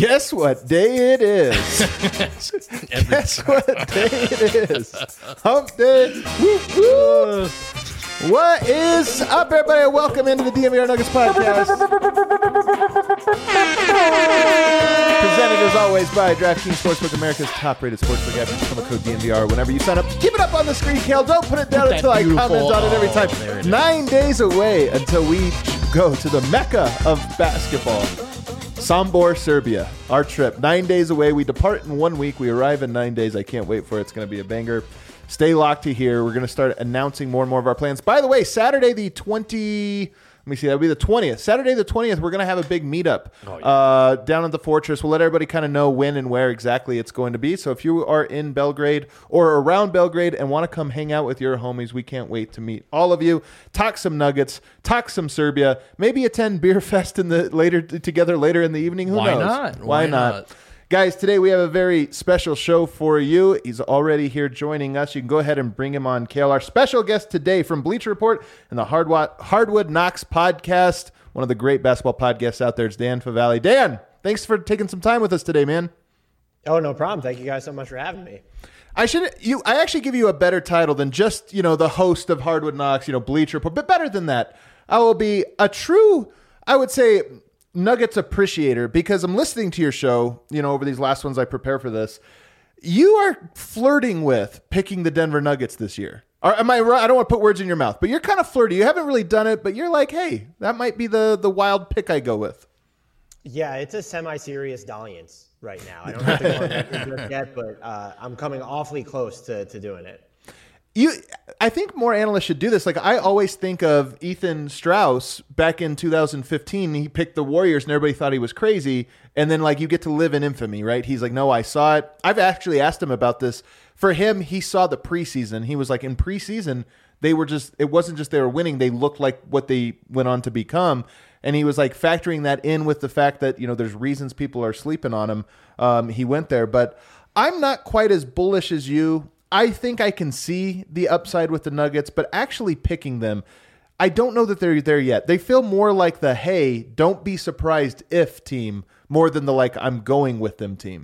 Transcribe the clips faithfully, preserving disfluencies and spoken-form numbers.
Guess what day it is? Guess what day it is? Hump day. Woo, woo. What is up, everybody? Welcome into the D N V R Nuggets podcast. Presented as always by DraftKings Sportsbook, America's top-rated sportsbook app. Use promo code D N V R whenever you sign up. Keep it up on the screen, Kale. Don't put it down Put until I beautiful- comment on it every time. Oh, there it is. Nine days away until we go to the Mecca of basketball. Sombor, Serbia. Our trip. Nine days away. We depart in one week. We arrive in nine days. I can't wait for it. It's going to be a banger. Stay locked to here. We're going to start announcing more and more of our plans. By the way, Saturday the twentieth, let me see, that'll be the twentieth. Saturday the twentieth, we're going to have a big meetup oh, yeah. uh, down at the Fortress. We'll let everybody kind of know when and where exactly it's going to be. So if you are in Belgrade or around Belgrade and want to come hang out with your homies, we can't wait to meet all of you. Talk some Nuggets, talk some Serbia, maybe attend Beer Fest in the later together later in the evening. Who Why knows? not? Why, Why not? not? Guys, today we have a very special show for you. He's already here joining us. You can go ahead and bring him on, Kale. Our special guest today from Bleacher Report and the Hardwood, Hardwood Knocks podcast, one of the great basketball podcasts out there. It's Dan Favale. Dan, thanks for taking some time with us today, man. Oh, no problem. Thank you guys so much for having me. I should you. I actually give you a better title than just, you know, the host of Hardwood Knocks, you know, Bleacher Report, but better than that. I will be a true, I would say, Nuggets appreciator, because I'm listening to your show, you know, over these last ones I prepare for this. You are flirting with picking the Denver Nuggets this year. Or am I right? I don't want to put words in your mouth, but you're kind of flirty. You haven't really done it, but you're like, hey, that might be the the wild pick I go with. Yeah, it's a semi-serious dalliance right now. I don't have to go into it yet, but uh, I'm coming awfully close to, to doing it. You, I think more analysts should do this. Like, I always think of Ethan Strauss back in two thousand fifteen. He picked the Warriors and everybody thought he was crazy. And then, like, you get to live in infamy, right? He's like, no, I saw it. I've actually asked him about this. For him, he saw the preseason. He was like, in preseason, they were just, it wasn't just they were winning. They looked like what they went on to become. And he was like factoring that in with the fact that, you know, there's reasons people are sleeping on him. Um, he went there. But I'm not quite as bullish as you. I think I can see the upside with the Nuggets, but actually picking them, I don't know that they're there yet. They feel more like the, hey, don't be surprised if team, more than the, like, I'm going with them team.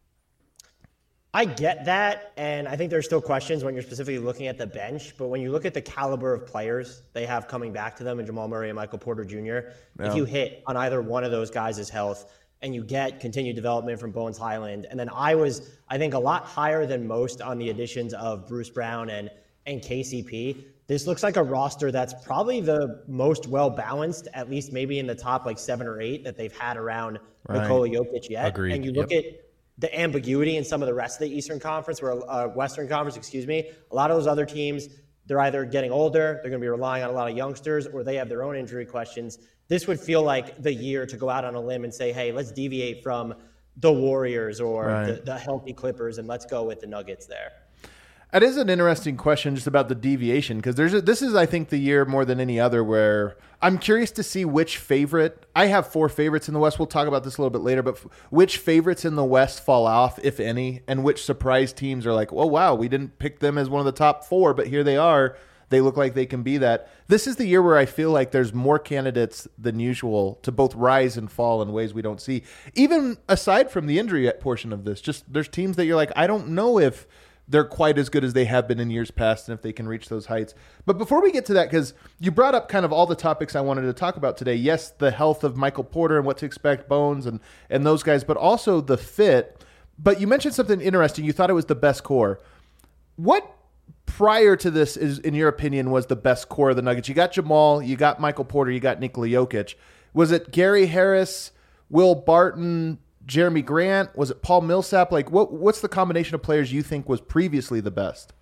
I get that, and I think there's still questions when you're specifically looking at the bench, but when you look at the caliber of players they have coming back to them in Jamal Murray and Michael Porter Junior, yeah. If you hit on either one of those guys' health, and you get continued development from Bones Highland. And then I was, I think, a lot higher than most on the additions of Bruce Brown and, and K C P. This looks like a roster that's probably the most well-balanced, at least maybe in the top like seven or eight that they've had around right. Nikola Jokic yet. Agreed. And you look yep. at the ambiguity in some of the rest of the Eastern Conference, or uh, Western Conference, excuse me. A lot of those other teams, they're either getting older, they're going to be relying on a lot of youngsters, or they have their own injury questions. This would feel like the year to go out on a limb and say, hey, let's deviate from the Warriors or right. the, the healthy Clippers, and let's go with the Nuggets there. That is an interesting question just about the deviation, because there's a, this is, I think, the year more than any other where I'm curious to see which favorite. I have four favorites in the West. We'll talk about this a little bit later, but f- which favorites in the West fall off, if any, and which surprise teams are like, oh, wow, we didn't pick them as one of the top four, but here they are. They look like they can be that. This is the year where I feel like there's more candidates than usual to both rise and fall in ways we don't see. Even aside from the injury portion of this, just there's teams that you're like, I don't know if they're quite as good as they have been in years past and if they can reach those heights. But before we get to that, because you brought up kind of all the topics I wanted to talk about today. Yes, the health of Michael Porter and what to expect, Bones and, and those guys, but also the fit. But you mentioned something interesting. You thought it was the best core. What prior to this is, in your opinion, was the best core of the Nuggets? You got Jamal, you got Michael Porter, you got Nikola Jokic. Was it Gary Harris, Will Barton, Jeremy Grant? Was it Paul Millsap? Like, what? What's the combination of players you think was previously the best?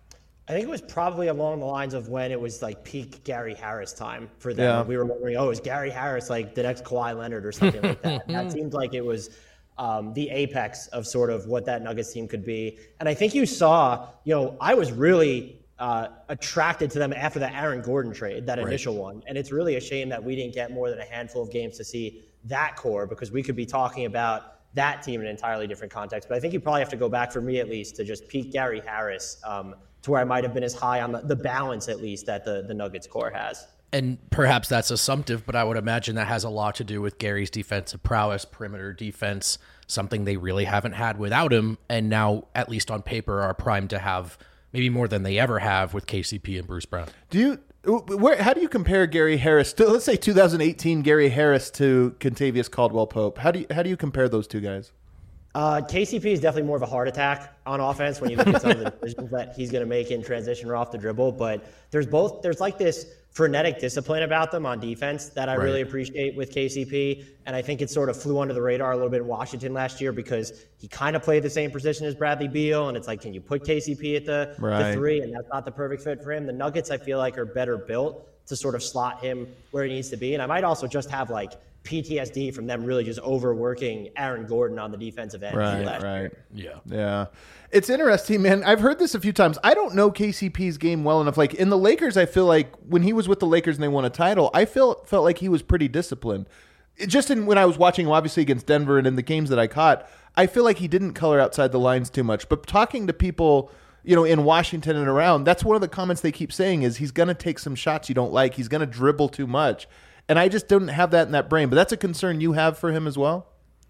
I think it was probably along the lines of when it was like peak Gary Harris time for them. Yeah. We were wondering, oh, is Gary Harris like the next Kawhi Leonard or something like that? That seemed like it was Um, the apex of sort of what that Nuggets team could be. And I think you saw, you know, I was really uh, attracted to them after the Aaron Gordon trade, that initial right. one. And it's really a shame that we didn't get more than a handful of games to see that core, because we could be talking about that team in an entirely different context. But I think you probably have to go back, for me at least, to just peak Gary Harris um, to where I might have been as high on the, the balance, at least, that the, the Nuggets core has. And perhaps that's assumptive, but I would imagine that has a lot to do with Gary's defensive prowess, perimeter defense, something they really haven't had without him, and now, at least on paper, are primed to have maybe more than they ever have with K C P and Bruce Brown. Do you, where, how do you compare Gary Harris to, let's say two thousand eighteen Gary Harris to Kentavious Caldwell-Pope? How do you, how do you compare those two guys? Uh, K C P is definitely more of a heart attack on offense when you look at some of the decisions that he's going to make in transition or off the dribble. But there's both, there's like this frenetic discipline about them on defense that I right. really appreciate with K C P. And I think it sort of flew under the radar a little bit in Washington last year because he kind of played the same position as Bradley Beal. And it's like, can you put K C P at the, right. the three? And that's not the perfect fit for him. The Nuggets, I feel like, are better built to sort of slot him where he needs to be. And I might also just have like P T S D from them really just overworking Aaron Gordon on the defensive end. Right, right. Year. Yeah. Yeah. It's interesting, man. I've heard this a few times. I don't know K C P's game well enough. Like in the Lakers, I feel like when he was with the Lakers and they won a title, I felt felt like he was pretty disciplined. It just in when I was watching him, obviously against Denver and in the games that I caught, I feel like he didn't color outside the lines too much. But talking to people, you know, in Washington and around, that's one of the comments they keep saying is he's going to take some shots you don't like. He's going to dribble too much. And I just don't have that in that brain. But that's a concern you have for him as well?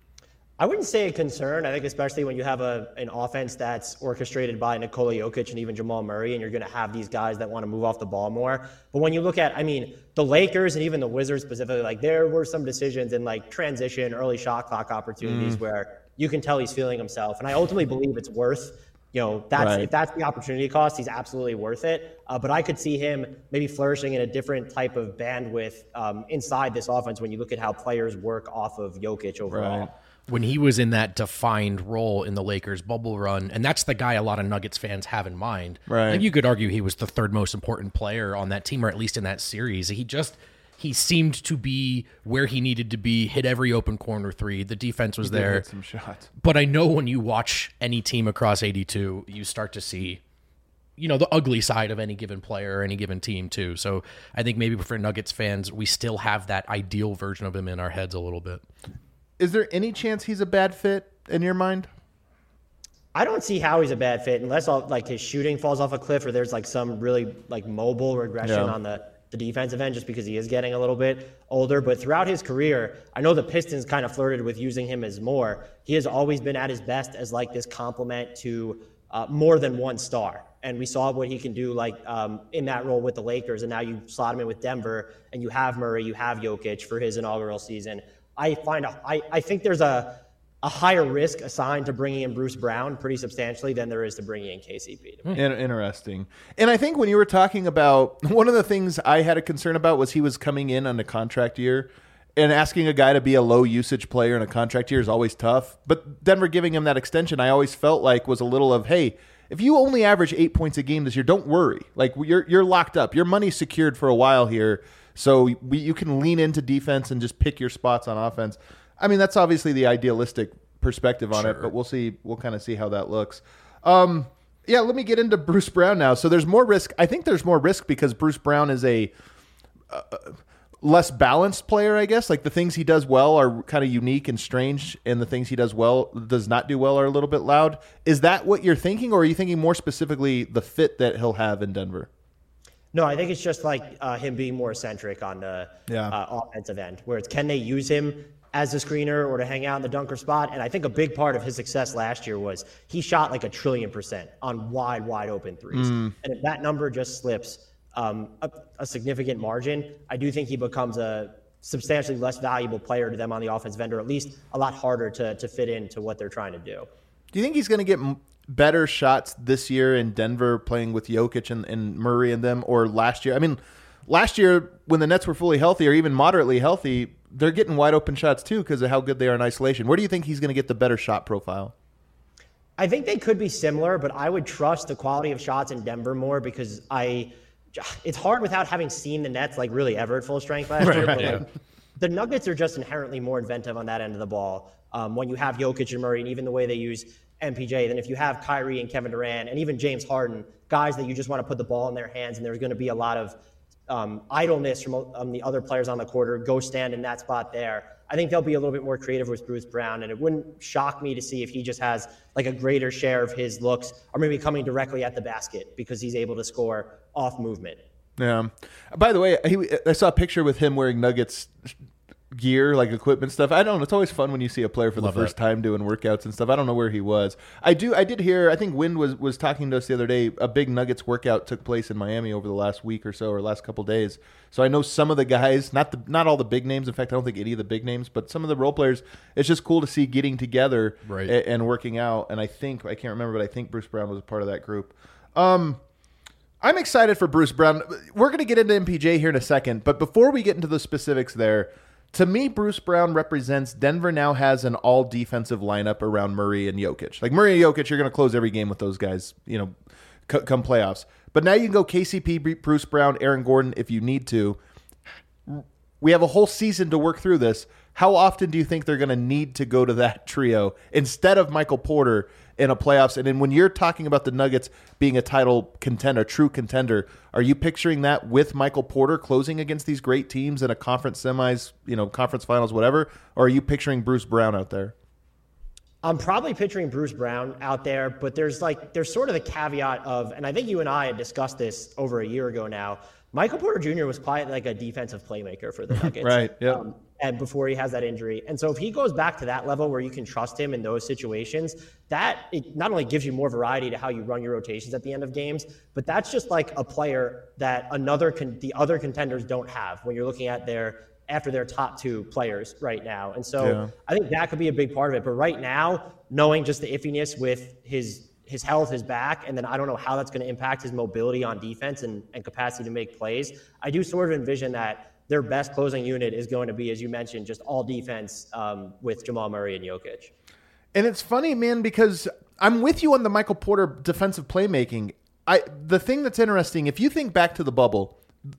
I wouldn't say a concern. I think especially when you have a an offense that's orchestrated by Nikola Jokic and even Jamal Murray, and you're going to have these guys that want to move off the ball more. But when you look at, I mean, the Lakers and even the Wizards specifically, like there were some decisions in like transition, early shot clock opportunities mm. where you can tell he's feeling himself. And I ultimately believe it's worth You know, that's right. if that's the opportunity cost, he's absolutely worth it. Uh, but I could see him maybe flourishing in a different type of bandwidth um, inside this offense when you look at how players work off of Jokic overall. Right. When he was in that defined role in the Lakers bubble run, and that's the guy a lot of Nuggets fans have in mind. Right. Like you could argue he was the third most important player on that team, or at least in that series. He just he seemed to be where he needed to be, hit every open corner three. The defense was he did there. hit some shots. But I know when you watch any team across eighty-two, you start to see, you know, the ugly side of any given player or any given team too. So I think maybe for Nuggets fans, we still have that ideal version of him in our heads a little bit. Is there any chance he's a bad fit in your mind? I don't see how he's a bad fit unless all, like his shooting falls off a cliff or there's like some really like mobile regression yeah. on the, the defensive end just because he is getting a little bit older. But throughout his career, I know the Pistons kind of flirted with using him as more. He has always been at his best as like this complement to uh, more than one star. And we saw what he can do like um, in that role with the Lakers. And now you slot him in with Denver and you have Murray, you have Jokic for his inaugural season. I find a, I, I think there's a, a higher risk assigned to bringing in Bruce Brown pretty substantially than there is to bringing in K C P. Interesting. And I think when you were talking about, one of the things I had a concern about was he was coming in on a contract year, and asking a guy to be a low usage player in a contract year is always tough. But Denver giving him that extension, I always felt like was a little of, hey, if you only average eight points a game this year, don't worry. Like you're you're locked up. Your money's secured for a while here. So we, you can lean into defense and just pick your spots on offense. I mean, that's obviously the idealistic perspective on sure. it, but we'll see. We'll kind of see how that looks. Um, yeah, let me get into Bruce Brown now. So there's more risk. I think there's more risk because Bruce Brown is a uh, less balanced player, I guess. Like the things he does well are kind of unique and strange, and the things he does well does not do well are a little bit loud. Is that what you're thinking, or are you thinking more specifically the fit that he'll have in Denver? No, I think it's just like uh, him being more eccentric on the yeah. uh, offensive end, where it's can they use him as a screener or to hang out in the dunker spot? And I think a big part of his success last year was he shot like a trillion percent on wide, wide open threes. Mm. And if that number just slips um, a, a significant margin, I do think he becomes a substantially less valuable player to them on the offensive end, or at least a lot harder to, to fit into what they're trying to do. Do you think he's going to get better shots this year in Denver playing with Jokic and, and Murray and them, or last year? I mean, last year when the Nets were fully healthy or even moderately healthy, they're getting wide open shots too because of how good they are in isolation. Where do you think he's going to get the better shot profile? I think they could be similar, but I would trust the quality of shots in Denver more because I it's hard without having seen the Nets like really ever at full strength last right, year. But yeah. like, the Nuggets are just inherently more inventive on that end of the ball. Um, when you have Jokic and Murray, and even the way they use M P J, then if you have Kyrie and Kevin Durant and even James Harden, guys that you just want to put the ball in their hands, and there's going to be a lot of um, idleness from um, the other players on the court, or go stand in that spot there. I think they'll be a little bit more creative with Bruce Brown, and it wouldn't shock me to see if he just has like a greater share of his looks or maybe coming directly at the basket because he's able to score off movement. Yeah. By the way, he, I saw a picture with him wearing Nuggets gear, like equipment stuff. I don't know. It's always fun when you see a player for Love the first that. time doing workouts and stuff. I don't know where he was. I do. I did hear. I think Wind was was talking to us the other day. A big Nuggets workout took place in Miami over the last week or so, or last couple days. So I know some of the guys, not the not all the big names. In fact, I don't think any of the big names, but some of the role players. It's just cool to see getting together right. and, and working out. And I think I can't remember, but I think Bruce Brown was a part of that group. Um. I'm excited for Bruce Brown. We're going to get into M P J here in a second, but before we get into the specifics there, to me, Bruce Brown represents Denver now has an all-defensive lineup around Murray and Jokic. Like Murray and Jokic, you're going to close every game with those guys, you know, c- come playoffs. But now you can go K C P, Bruce Brown, Aaron Gordon if you need to. We have a whole season to work through this. How often do you think they're going to need to go to that trio instead of Michael Porter in a playoffs? And then when you're talking about the Nuggets being a title contender, true contender, are you picturing that with Michael Porter closing against these great teams in a conference semis, you know, conference finals, whatever? Or are you picturing Bruce Brown out there? I'm probably picturing Bruce Brown out there, but there's like there's sort of the caveat of, and I think you and I had discussed this over a year ago now, Michael Porter Junior was quite like a defensive playmaker for the Nuggets. Right, yeah. Um, and before he has that injury. And so if he goes back to that level where you can trust him in those situations, that it not only gives you more variety to how you run your rotations at the end of games, but that's just like a player that another con- the other contenders don't have when you're looking at their after their top two players right now. And so Yeah. I think that could be a big part of it. But right now, knowing just the iffiness with his his health, his back, and then I don't know how that's going to impact his mobility on defense and, and capacity to make plays. I do sort of envision that their best closing unit is going to be, as you mentioned, just all defense um, with Jamal Murray and Jokic. And it's funny, man, because I'm with you on the Michael Porter defensive playmaking. I the thing that's interesting, if you think back to the bubble,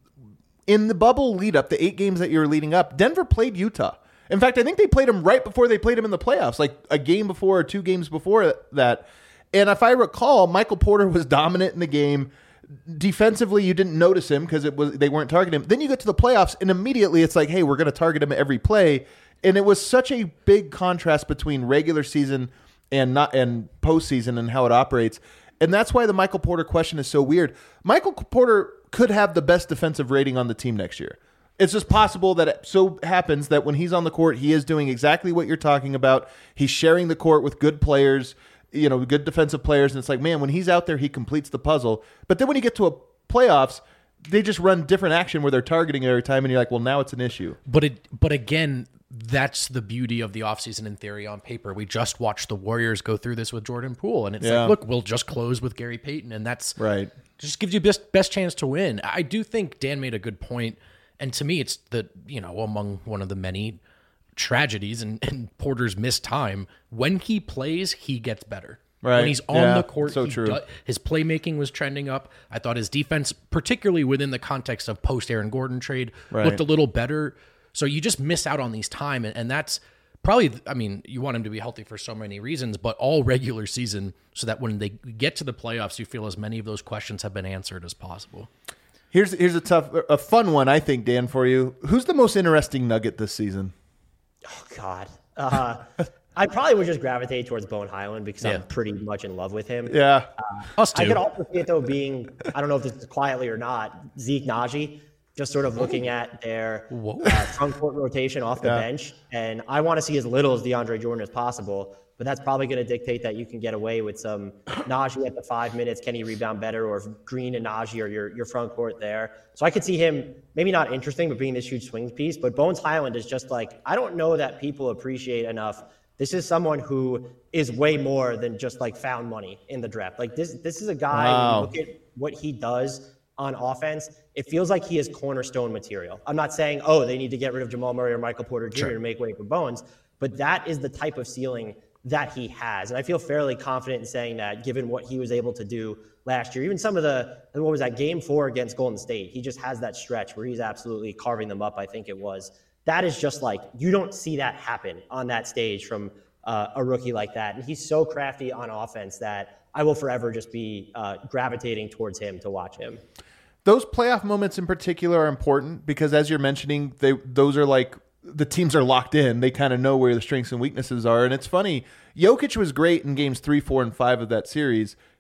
in the bubble lead up, the eight games that you're leading up, Denver played Utah. In fact, I think they played them right before they played them in the playoffs, like a game before or two games before that. And if I recall, Michael Porter was dominant in the game. Defensively, you didn't notice him because it was they weren't targeting him. Then you get to the playoffs, and immediately it's like, hey, we're going to target him every play. And it was such a big contrast between regular season and not and postseason and how it operates. And that's why the Michael Porter question is so weird. Michael Porter could have the best defensive rating on the team next year. It's just possible that it so happens that when he's on the court, he is doing exactly what you're talking about. He's sharing the court with good players, you know, good defensive players. And it's like, man, when he's out there, he completes the puzzle. But then when you get to a playoffs, they just run different action where they're targeting every time. And you're like, well, now it's an issue. But it, but again, that's the beauty of the offseason in theory on paper. We just watched the Warriors go through this with Jordan Poole. And it's Yeah. like, look, we'll just close with Gary Payton. And that's Right. just gives you best, best chance to win. I do think Dan made a good point. And to me, it's the, you know, among one of the many tragedies and, and Porter's missed time. When he plays, he gets better. Right. When he's on Yeah, the court, so he true. do- his playmaking was trending up. I thought his defense, particularly within the context of post Aaron Gordon trade, Right. looked a little better. So you just miss out on these time, and, and that's probably, I mean, you want him to be healthy for so many reasons, but all regular season, so that when they get to the playoffs, you feel as many of those questions have been answered as possible. Here's here's a tough, a fun one, I think, Dan, for you. Who's the most interesting Nugget this season? Oh, God. Uh, I probably would just gravitate towards Bones Hyland because Yeah. I'm pretty much in love with him. Yeah. Us too. I could also see it, though, being, I don't know if this is quietly or not, Zeke Naji, just sort of looking at their uh, front court rotation off the Yeah. bench. And I want to see as little as DeAndre Jordan as possible, but that's probably going to dictate that you can get away with some Naji at the five minutes. Can he rebound better? Or if Green and Naji are your, your front court there. So I could see him maybe not interesting, but being this huge swing piece. But Bones Hyland is just like, I don't know that people appreciate enough. This is someone who is way more than just like found money in the draft. Like this, this is a guy, Wow. when you look at what he does on offense, it feels like he is cornerstone material. I'm not saying, oh, they need to get rid of Jamal Murray or Michael Porter Junior Sure. to make way for Bones, but that is the type of ceiling that he has. And I feel fairly confident in saying that given what he was able to do last year. Even some of the, what was that, game four against Golden State, he just has that stretch where he's absolutely carving them up, I think it was. That is just like, you don't see that happen on that stage from uh, a rookie like that. And he's so crafty on offense that I will forever just be uh, gravitating towards him to watch him. Those playoff moments in particular are important because, as you're mentioning, they those are like the teams are locked in. They kind of know where the strengths and weaknesses are. And it's funny, Jokic was great in games three, four, and five of that series.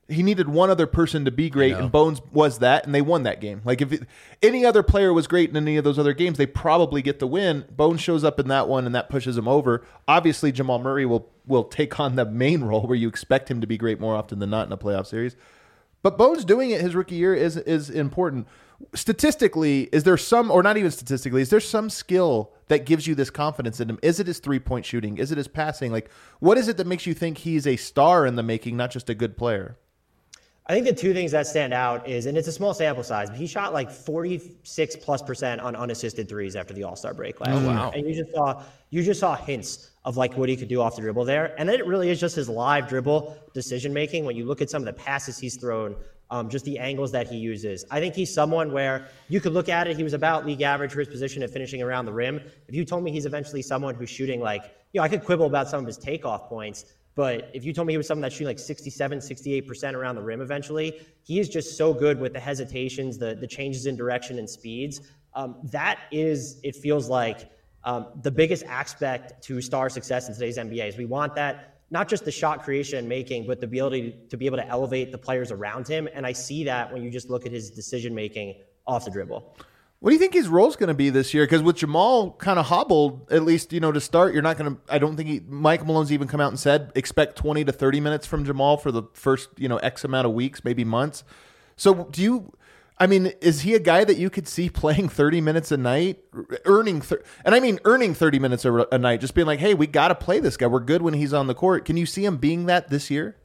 He needed one other person to be great, and Bones was that, and they won that game. Like, if it, any other player was great in any of those other games, they probably get the win. Bones shows up in that one, and that pushes him over. Obviously, Jamal Murray will will take on the main role where you expect him to be great more often than not in a playoff series. But Bones doing it his rookie year is is important. Statistically, is there some, or not even statistically, is there some skill that gives you this confidence in him? Is it his three-point shooting? Is it his passing? Like, what is it that makes you think he's a star in the making, not just a good player? I think the two things that stand out is, and it's a small sample size, but he shot like forty-six plus percent on unassisted threes after the All-Star break last year. Oh, wow. And you just saw, you just saw hints of like what he could do off the dribble there. And then it really is just his live dribble decision-making. When you look at some of the passes he's thrown, um, just the angles that he uses. I think he's someone where you could look at it. He was about league average for his position at finishing around the rim. If you told me he's eventually someone who's shooting like, you know, I could quibble about some of his takeoff points, but if you told me he was someone that's shooting like sixty-seven, sixty-eight percent around the rim eventually, he is just so good with the hesitations, the, the changes in direction and speeds. Um, that is, it feels like, um, the biggest aspect to star success in today's N B A is we want that, not just the shot creation and making, but the ability to be able to elevate the players around him. And I see that when you just look at his decision-making off the dribble. What do you think his role's going to be this year? Because with Jamal kind of hobbled, at least, you know, to start, you're not going to, I don't think he, Mike Malone's even come out and said, expect twenty to thirty minutes from Jamal for the first, you know, X amount of weeks, maybe months. So do you, I mean, is he a guy that you could see playing thirty minutes a night, earning, th- and I mean, earning thirty minutes a, a night, just being like, hey, we got to play this guy. We're good when he's on the court. Can you see him being that this year?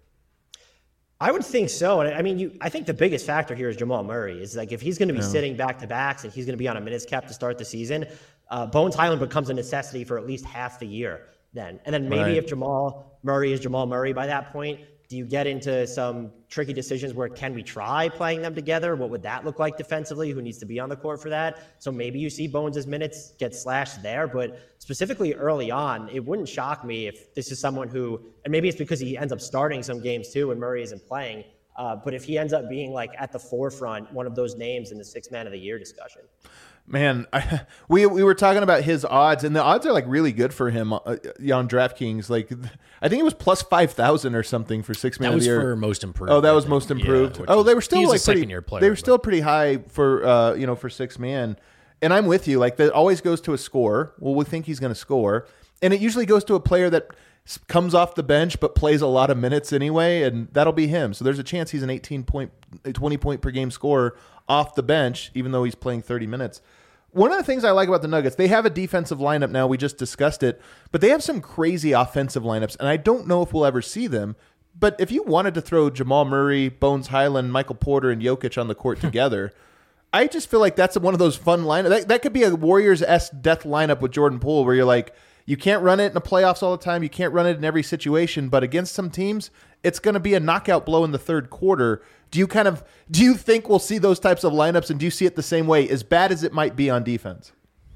I would think so. And I mean, you, I think the biggest factor here is Jamal Murray. Is like if he's going to be yeah. sitting back to backs and he's going to be on a minutes cap to start the season, uh, Bones Highland becomes a necessity for at least half the year then. And then maybe right. if Jamal Murray is Jamal Murray by that point, do you get into some tricky decisions where can we try playing them together? What would that look like defensively? Who needs to be on the court for that? So maybe you see Bones' minutes get slashed there, but specifically early on, it wouldn't shock me if this is someone who, and maybe it's because he ends up starting some games too when Murray isn't playing, uh, but if he ends up being like at the forefront, one of those names in the sixth man of the year discussion. Man, I, we we were talking about his odds, and the odds are like really good for him uh, on DraftKings. Like, I think it was plus five thousand or something for six man of the year. That was for most improved. Oh, that was most improved. Yeah, oh, they were still like pretty. Player, they were but. still pretty high for uh, you know for six man. And I'm with you. Like, that always goes to a score. Well, we think he's going to score, and it usually goes to a player that comes off the bench but plays a lot of minutes anyway, and that'll be him. So there's a chance he's an eighteen point, twenty point per game scorer off the bench, even though he's playing thirty minutes. One of the things I like about the Nuggets, they have a defensive lineup now. We just discussed it, but they have some crazy offensive lineups, and I don't know if we'll ever see them. But if you wanted to throw Jamal Murray, Bones Highland, Michael Porter, and Jokic on the court together, I just feel like that's one of those fun lineups. That, that could be a Warriors-esque death lineup with Jordan Poole, where you're like, you can't run it in the playoffs all the time. You can't run it in every situation, but against some teams, it's going to be a knockout blow in the third quarter. Do you kind of do you think we'll see those types of lineups, and do you see it the same way, as bad as it might be on defense?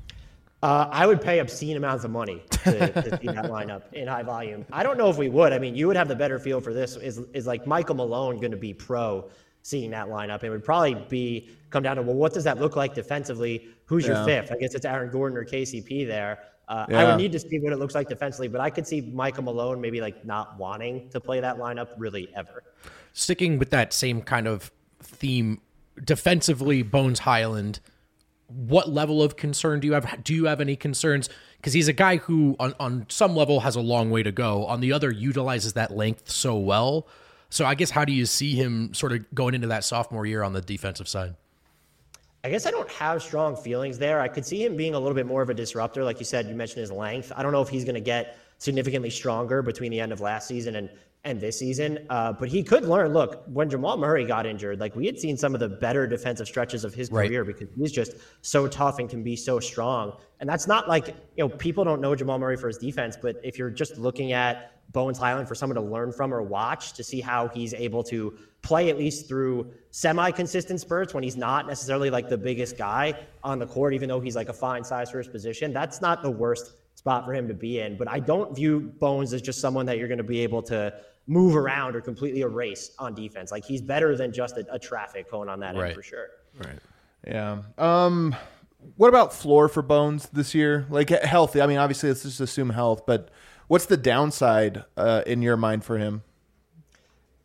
Uh, I would pay obscene amounts of money to, to see that lineup in high volume. I don't know if we would. I mean, you would have the better feel for this. Is is like Michael Malone going to be pro seeing that lineup? It would probably be come down to, well, what does that look like defensively? Who's yeah. your fifth? I guess it's Aaron Gordon or K C P there. Uh, yeah. I would need to see what it looks like defensively, but I could see Michael Malone maybe like not wanting to play that lineup really ever. Sticking with that same kind of theme, defensively, Bones Highland, what level of concern do you have? Do you have any concerns? Because he's a guy who on, on some level has a long way to go. On the other, utilizes that length so well. So I guess how do you see him sort of going into that sophomore year on the defensive side? I guess I don't have strong feelings there. I could see him being a little bit more of a disruptor. Like you said, you mentioned his length. I don't know if he's going to get significantly stronger between the end of last season and, and this season. Uh, but he could learn. Look, when Jamal Murray got injured, like we had seen some of the better defensive stretches of his career right. because he's just so tough and can be so strong. And that's not like, you know, people don't know Jamal Murray for his defense, but if you're just looking at Bones Highland for someone to learn from or watch to see how he's able to play at least through semi-consistent spurts when he's not necessarily like the biggest guy on the court, even though he's like a fine size for his position, that's not the worst spot for him to be in. But I don't view Bones as just someone that you're going to be able to move around or completely erase on defense. Like he's better than just a, a traffic cone on that right. end for sure. Right. Yeah. Um, what about floor for Bones this year? Like healthy. I mean, obviously let's just assume health, but what's the downside uh, in your mind for him?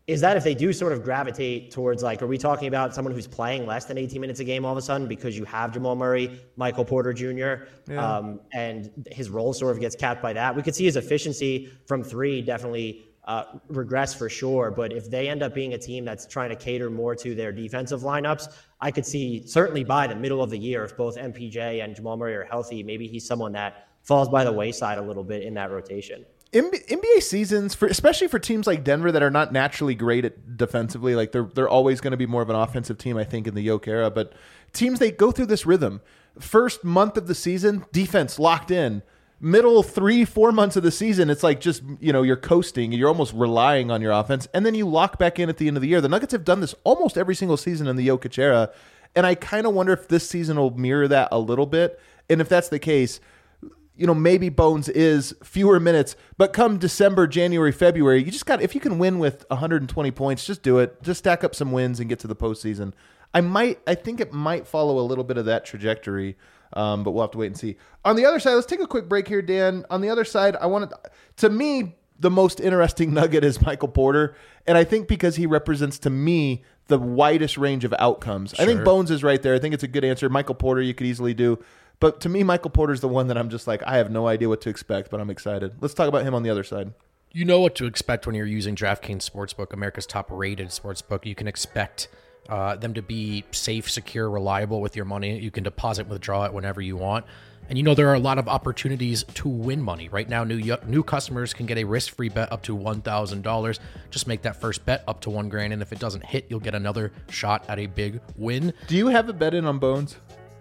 is that if they do sort of gravitate towards, like, are we talking about someone who's playing less than eighteen minutes a game all of a sudden because you have Jamal Murray, Michael Porter Junior, yeah. um, and his role sort of gets capped by that? We could see his efficiency from three definitely uh, regress for sure. But if they end up being a team that's trying to cater more to their defensive lineups, I could see certainly by the middle of the year, if both M P J and Jamal Murray are healthy, maybe he's someone that falls by the wayside a little bit in that rotation. N B A seasons, for especially for teams like Denver that are not naturally great at defensively, like they're they're always going to be more of an offensive team, I think, in the Yoke era. But teams, they go through this rhythm. First month of the season, defense locked in. Middle three, four months of the season, it's like just, you know, you're coasting. You're almost relying on your offense. And then you lock back in at the end of the year. The Nuggets have done this almost every single season in the Jokic era. And I kind of wonder if this season will mirror that a little bit. And if that's the case, you know, maybe Bones is fewer minutes, but come December, January, February, you just got, if you can win with one hundred twenty points, just do it. Just stack up some wins and get to the postseason. I might, I think it might follow a little bit of that trajectory, um, but we'll have to wait and see. On the other side, let's take a quick break here, Dan. On the other side, I want to, to me, the most interesting nugget is Michael Porter. And I think because he represents, to me, the widest range of outcomes. Sure. I think Bones is right there. I think it's a good answer. Michael Porter, you could easily do. But to me, Michael Porter's the one that I'm just like, I have no idea what to expect, but I'm excited. Let's talk about him on the other side. You know what to expect when you're using DraftKings Sportsbook, America's top-rated sportsbook. You can expect uh, them to be safe, secure, reliable with your money. You can deposit and withdraw it whenever you want. And you know there are a lot of opportunities to win money. Right now, new new customers can get a risk-free bet up to one thousand dollars. Just make that first bet up to one grand, and if it doesn't hit, you'll get another shot at a big win. Do you have a bet in on Bones?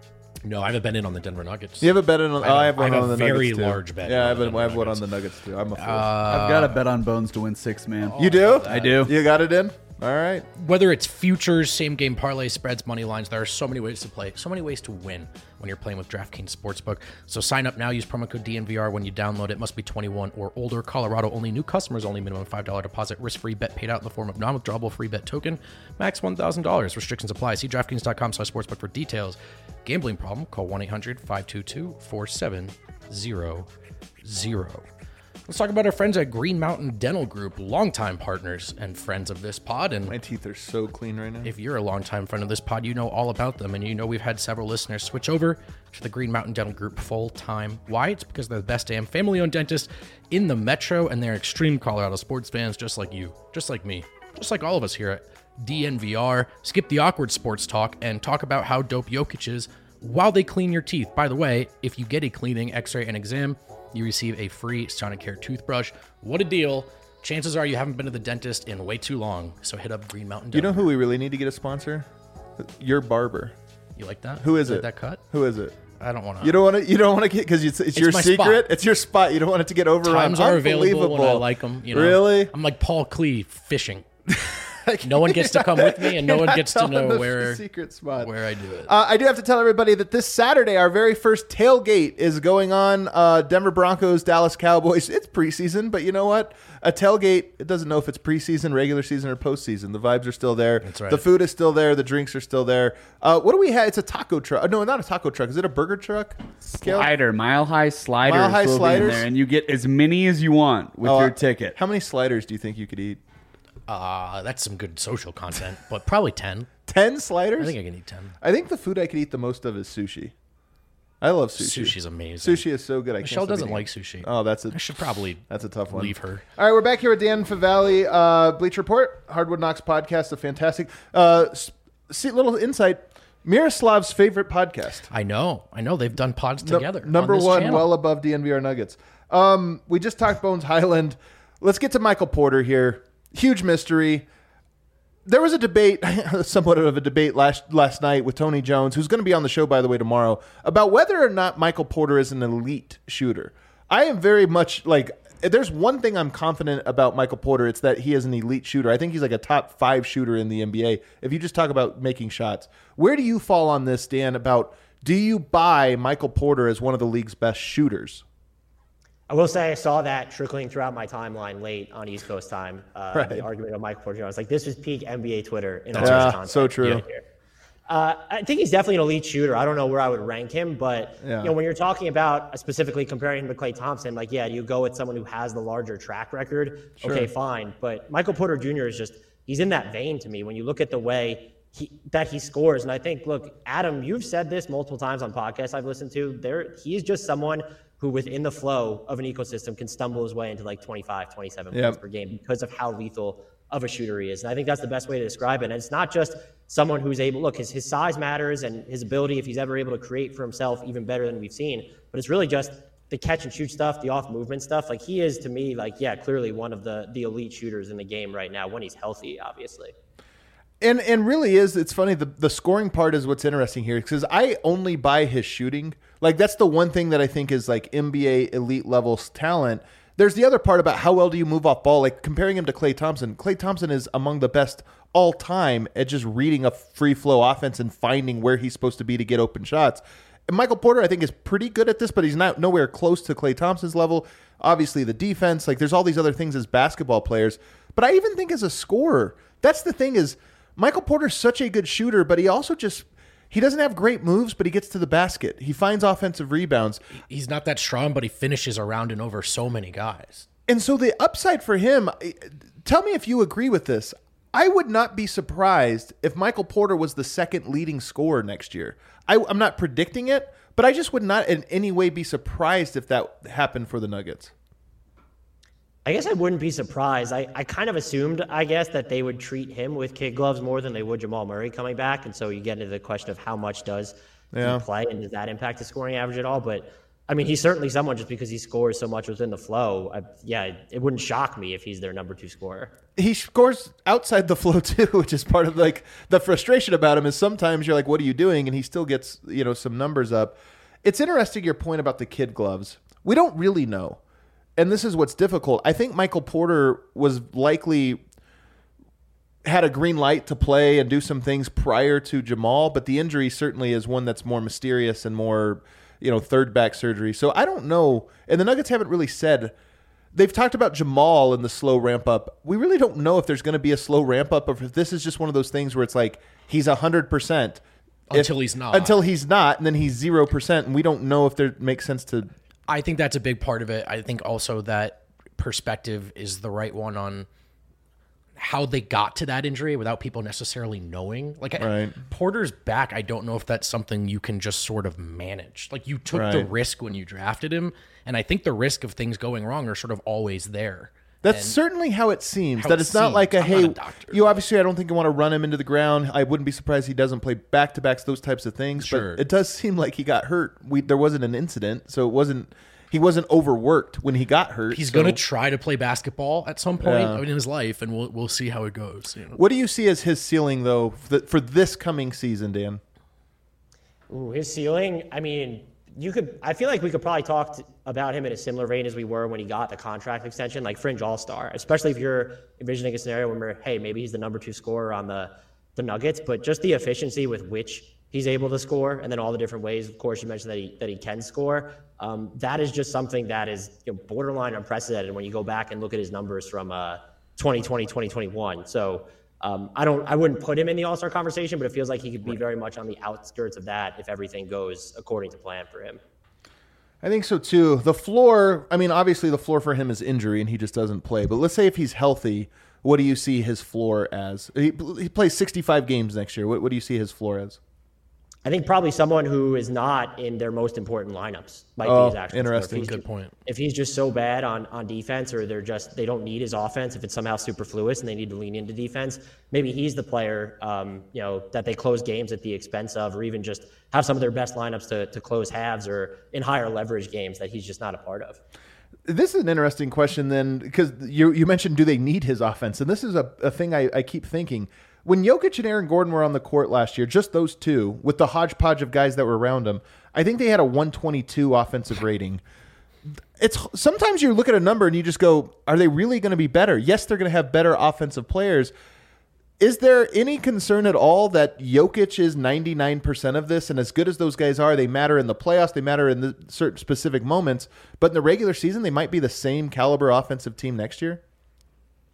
No, I haven't bet in on the Denver Nuggets. You have a bet in on? I have, oh, I have one I have on a the very Nuggets too. large bet. Yeah, I have, on a, I have one Nuggets. on the Nuggets too. I'm a fool. Uh, I've got a bet on Bones to win six, man. You do? I do. You got it in? All right. Whether it's futures, same game parlay, spreads, money lines, there are so many ways to play, so many ways to win when you're playing with DraftKings Sportsbook. So sign up now. Use promo code D N V R when you download it. Must be twenty-one or older. Colorado only. New customers only. Minimum five dollars deposit. Risk-free bet paid out in the form of non-withdrawable free bet token. Max one thousand dollars. Restrictions apply. See DraftKings.com slash sportsbook for details. Gambling problem? Call one eight hundred five two two four seven zero zero. Let's talk about our friends at Green Mountain Dental Group, longtime partners and friends of this pod. And my teeth are so clean right now. If you're a longtime friend of this pod, you know all about them. And you know we've had several listeners switch over to the Green Mountain Dental Group full time. Why? It's because they're the best damn family-owned dentist in the metro, and they're extreme Colorado sports fans just like you, just like me, just like all of us here at D N V R. Skip the awkward sports talk and talk about how dope Jokic is while they clean your teeth. By the way, if you get a cleaning, x-ray, and exam, you receive a free Sonicare toothbrush. What a deal. Chances are you haven't been to the dentist in way too long, so hit up Green Mountain Dental. You know who we really need to get a sponsor? Your barber. You like that? Who is you it? Like that cut? Who is it? I don't want to. You don't want to. You don't want to get because it's, it's, it's your secret. Spot. It's your spot. You don't want it to get overrun. Times are available when I like them. You know? Really? I'm like Paul Klee fishing. No one gets to come with me, and no one gets to know where secret spot where I do it. Uh, I do have to tell everybody that this Saturday, our very first tailgate is going on. Uh, Denver Broncos, Dallas Cowboys. It's preseason, but you know what? A tailgate, it doesn't know if it's preseason, regular season, or postseason. The vibes are still there. That's right. The food is still there. The drinks are still there. Uh, what do we have? It's a taco truck. No, not a taco truck. Is it a burger truck? Slider, mile high sliders. Mile high will sliders, be in there, and you get as many as you want with uh, your ticket. How many sliders do you think you could eat? Uh, that's some good social content, but probably ten. ten sliders? I think I can eat ten. I think the food I could eat the most of is sushi. I love sushi. Sushi's amazing. Sushi is so good. I Michelle can't doesn't eating. like sushi. Oh, that's a. I should probably that's a tough one. Leave her. All right, we're back here with Dan Favale, uh, Bleach Report, Hardwood Knocks podcast, a fantastic. Uh, see, little insight. Miroslav's favorite podcast. I know. I know. They've done pods No, together. number on one, channel. well above D N V R Nuggets. Um, we just talked Bones Highland. Let's get to Michael Porter here. Huge mystery. There was a debate, somewhat of a debate last last night with Tony Jones, who's going to be on the show, by the way, tomorrow, about whether or not Michael Porter is an elite shooter. I am very much like, if there's one thing I'm confident about Michael Porter, it's that he is an elite shooter. I think he's like a top five shooter in the N B A. If you just talk about making shots, where do you fall on this, Dan, about do you buy Michael Porter as one of the league's best shooters? I will say I saw that trickling throughout my timeline late on East Coast time. Uh, right. The argument of Michael Porter. I was like, this is peak N B A Twitter in all yeah, this content. so true. Here. Uh, I think he's definitely an elite shooter. I don't know where I would rank him, but Yeah. you know, when you're talking about uh, specifically comparing him to Klay Thompson, like, yeah, you go with someone who has the larger track record. Okay, fine. But Michael Porter Junior is just, he's in that vein to me when you look at the way he, that he scores. And I think, look, Adam, you've said this multiple times on podcasts I've listened to. There, he's just someone who within the flow of an ecosystem can stumble his way into like twenty-five, twenty-seven Yep. points per game because of how lethal of a shooter he is. And I think that's the best way to describe it. And it's not just someone who's able, look, his, his size matters and his ability, if he's ever able to create for himself, even better than we've seen, but it's really just the catch and shoot stuff, the off movement stuff. Like he is to me, like, yeah, clearly one of the, the elite shooters in the game right now when he's healthy, obviously. And and really is, it's funny, the, the scoring part is what's interesting here because I only buy his shooting. Like that's the one thing that I think is like N B A elite level talent. There's the other part about how well do you move off ball, like comparing him to Klay Thompson. Klay Thompson is among the best all time at just reading a free flow offense and finding where he's supposed to be to get open shots. And Michael Porter, I think, is pretty good at this, but he's not nowhere close to Klay Thompson's level. Obviously, the defense, like there's all these other things as basketball players. But I even think as a scorer, that's the thing is Michael Porter's such a good shooter, but he also just he doesn't have great moves, but he gets to the basket. He finds offensive rebounds. He's not that strong, but he finishes around and over so many guys. And so the upside for him, tell me if you agree with this. I would not be surprised if Michael Porter was the second leading scorer next year. I, I'm not predicting it, but I just would not in any way be surprised if that happened for the Nuggets. I guess I wouldn't be surprised. I, I kind of assumed, I guess, that they would treat him with kid gloves more than they would Jamal Murray coming back. And so you get into the question of how much does Yeah. he play and does that impact his scoring average at all? But I mean, he's certainly someone just because he scores so much within the flow. I, yeah, it wouldn't shock me if he's their number two scorer. He scores outside the flow too, which is part of like the frustration about him is sometimes you're like, what are you doing? And he still gets, you know, some numbers up. It's interesting your point about the kid gloves. We don't really know. And this is what's difficult. I think Michael Porter was likely had a green light to play and do some things prior to Jamal, but the injury certainly is one that's more mysterious and more, you know, third back surgery. So I don't know. And the Nuggets haven't really said. They've talked about Jamal and the slow ramp up. We really don't know if there's going to be a slow ramp up or if this is just one of those things where it's like he's one hundred percent. Until if, he's not. Until he's not, and then he's zero percent, and we don't know if there makes sense to. I think that's a big part of it. I think also that perspective is the right one on how they got to that injury without people necessarily knowing. Like Right. Porter's back, I don't know if that's something you can just sort of manage. Like you took the Right. risk when you drafted him, and I think the risk of things going wrong are sort of always there. That's And certainly how it seems. how That it it's not like a, seems. I'm not hey, a doctor. you obviously, I don't think you want to run him into the ground. I wouldn't be surprised he doesn't play back-to-backs, those types of things. Sure. But it does seem like he got hurt. We There wasn't an incident, so it wasn't. He wasn't overworked when he got hurt. He's so- going to try to play basketball at some point Yeah. in his life, and we'll we'll see how it goes. You know? What do you see as his ceiling, though, for, the, for this coming season, Dan? Ooh, his ceiling, I mean, you could, I feel like we could probably talk t- about him in a similar vein as we were when he got the contract extension, like fringe all-star, especially if you're envisioning a scenario where, hey, maybe he's the number two scorer on the, the Nuggets, but just the efficiency with which he's able to score, and then all the different ways, of course, you mentioned that he, that he can score. Um, that is just something that is, you know, borderline unprecedented when you go back and look at his numbers from uh, twenty twenty, twenty twenty-one. So um, I don't, I wouldn't put him in the all-star conversation, but it feels like he could be very much on the outskirts of that if everything goes according to plan for him. I think so, too. The floor, I mean, obviously the floor for him is injury, and he just doesn't play. But let's say if he's healthy, what do you see his floor as? He, he plays sixty-five games next year. What, what do you see his floor as? I think probably someone who is not in their most important lineups might Oh, be his actual score. interesting. If he's Good ju- point. If he's just so bad on, on defense, or they're just they don't need his offense, if it's somehow superfluous and they need to lean into defense, maybe he's the player um, you know that they close games at the expense of, or even just have some of their best lineups to to close halves or in higher leverage games that he's just not a part of. This is an interesting question then, because you you mentioned, do they need his offense? And this is a, a thing I, I keep thinking. When Jokic and Aaron Gordon were on the court last year, just those two, with the hodgepodge of guys that were around them, I think they had a one twenty-two offensive rating. It's sometimes you look at a number and you just go, are they really going to be better? Yes, they're going to have better offensive players. Is there any concern at all that Jokic is ninety-nine percent of this, and as good as those guys are, they matter in the playoffs, they matter in the certain specific moments, but in the regular season, they might be the same caliber offensive team next year?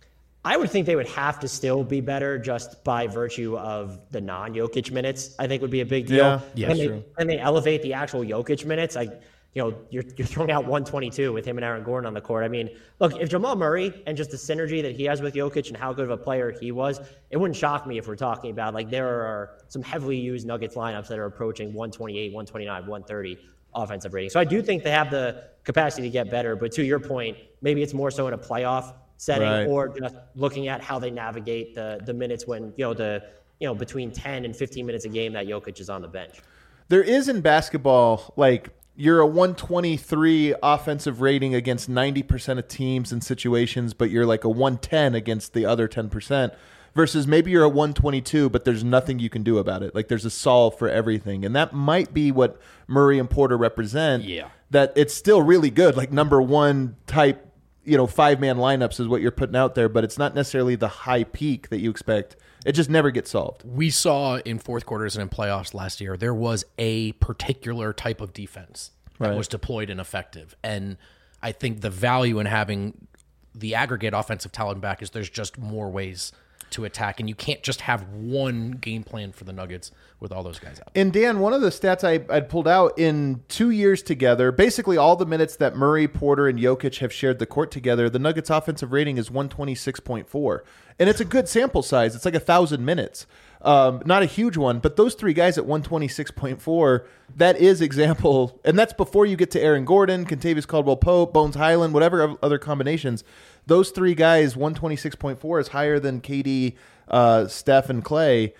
I would think they would have to still be better just by virtue of the non-Jokic minutes. I think would be a big deal. Yeah, yeah, and, they, true. and they elevate the actual Jokic minutes. I, you know, you're you're throwing out one twenty-two with him and Aaron Gordon on the court. I mean, look, if Jamal Murray and just the synergy that he has with Jokic and how good of a player he was, it wouldn't shock me if we're talking about like there are some heavily used Nuggets lineups that are approaching one twenty-eight, one twenty-nine, one thirty offensive rating. So I do think they have the capacity to get better. But to your point, maybe it's more so in a playoff setting Right. or just looking at how they navigate the the minutes when, you know, the, you know, between ten and fifteen minutes a game that Jokic is on the bench. There is in basketball, like you're a one twenty-three offensive rating against ninety percent of teams and situations, but you're like a one ten against the other ten percent versus maybe you're a one twenty-two, but there's nothing you can do about it. Like there's a solve for everything. And that might be what Murray and Porter represent. Yeah. That it's still really good. Like number one type, you know, five-man lineups is what you're putting out there, but it's not necessarily the high peak that you expect. It just never gets solved. We saw in fourth quarters and in playoffs last year, there was a particular type of defense that Right. was deployed and effective. And I think the value in having the aggregate offensive talent back is there's just more ways to attack, and you can't just have one game plan for the Nuggets with all those guys out. And Dan, one of the stats I I'd pulled out in two years together, basically all the minutes that Murray, Porter, and Jokic have shared the court together, the Nuggets' offensive rating is one twenty-six point four. And it's a good sample size. It's like a thousand minutes. Um, not a huge one, but those three guys at one twenty-six point four, that is example, and that's before you get to Aaron Gordon, Kentavious Caldwell-Pope, Bones Highland, whatever other combinations. Those three guys, one twenty-six point four is higher than K D, uh, Steph, and Clay.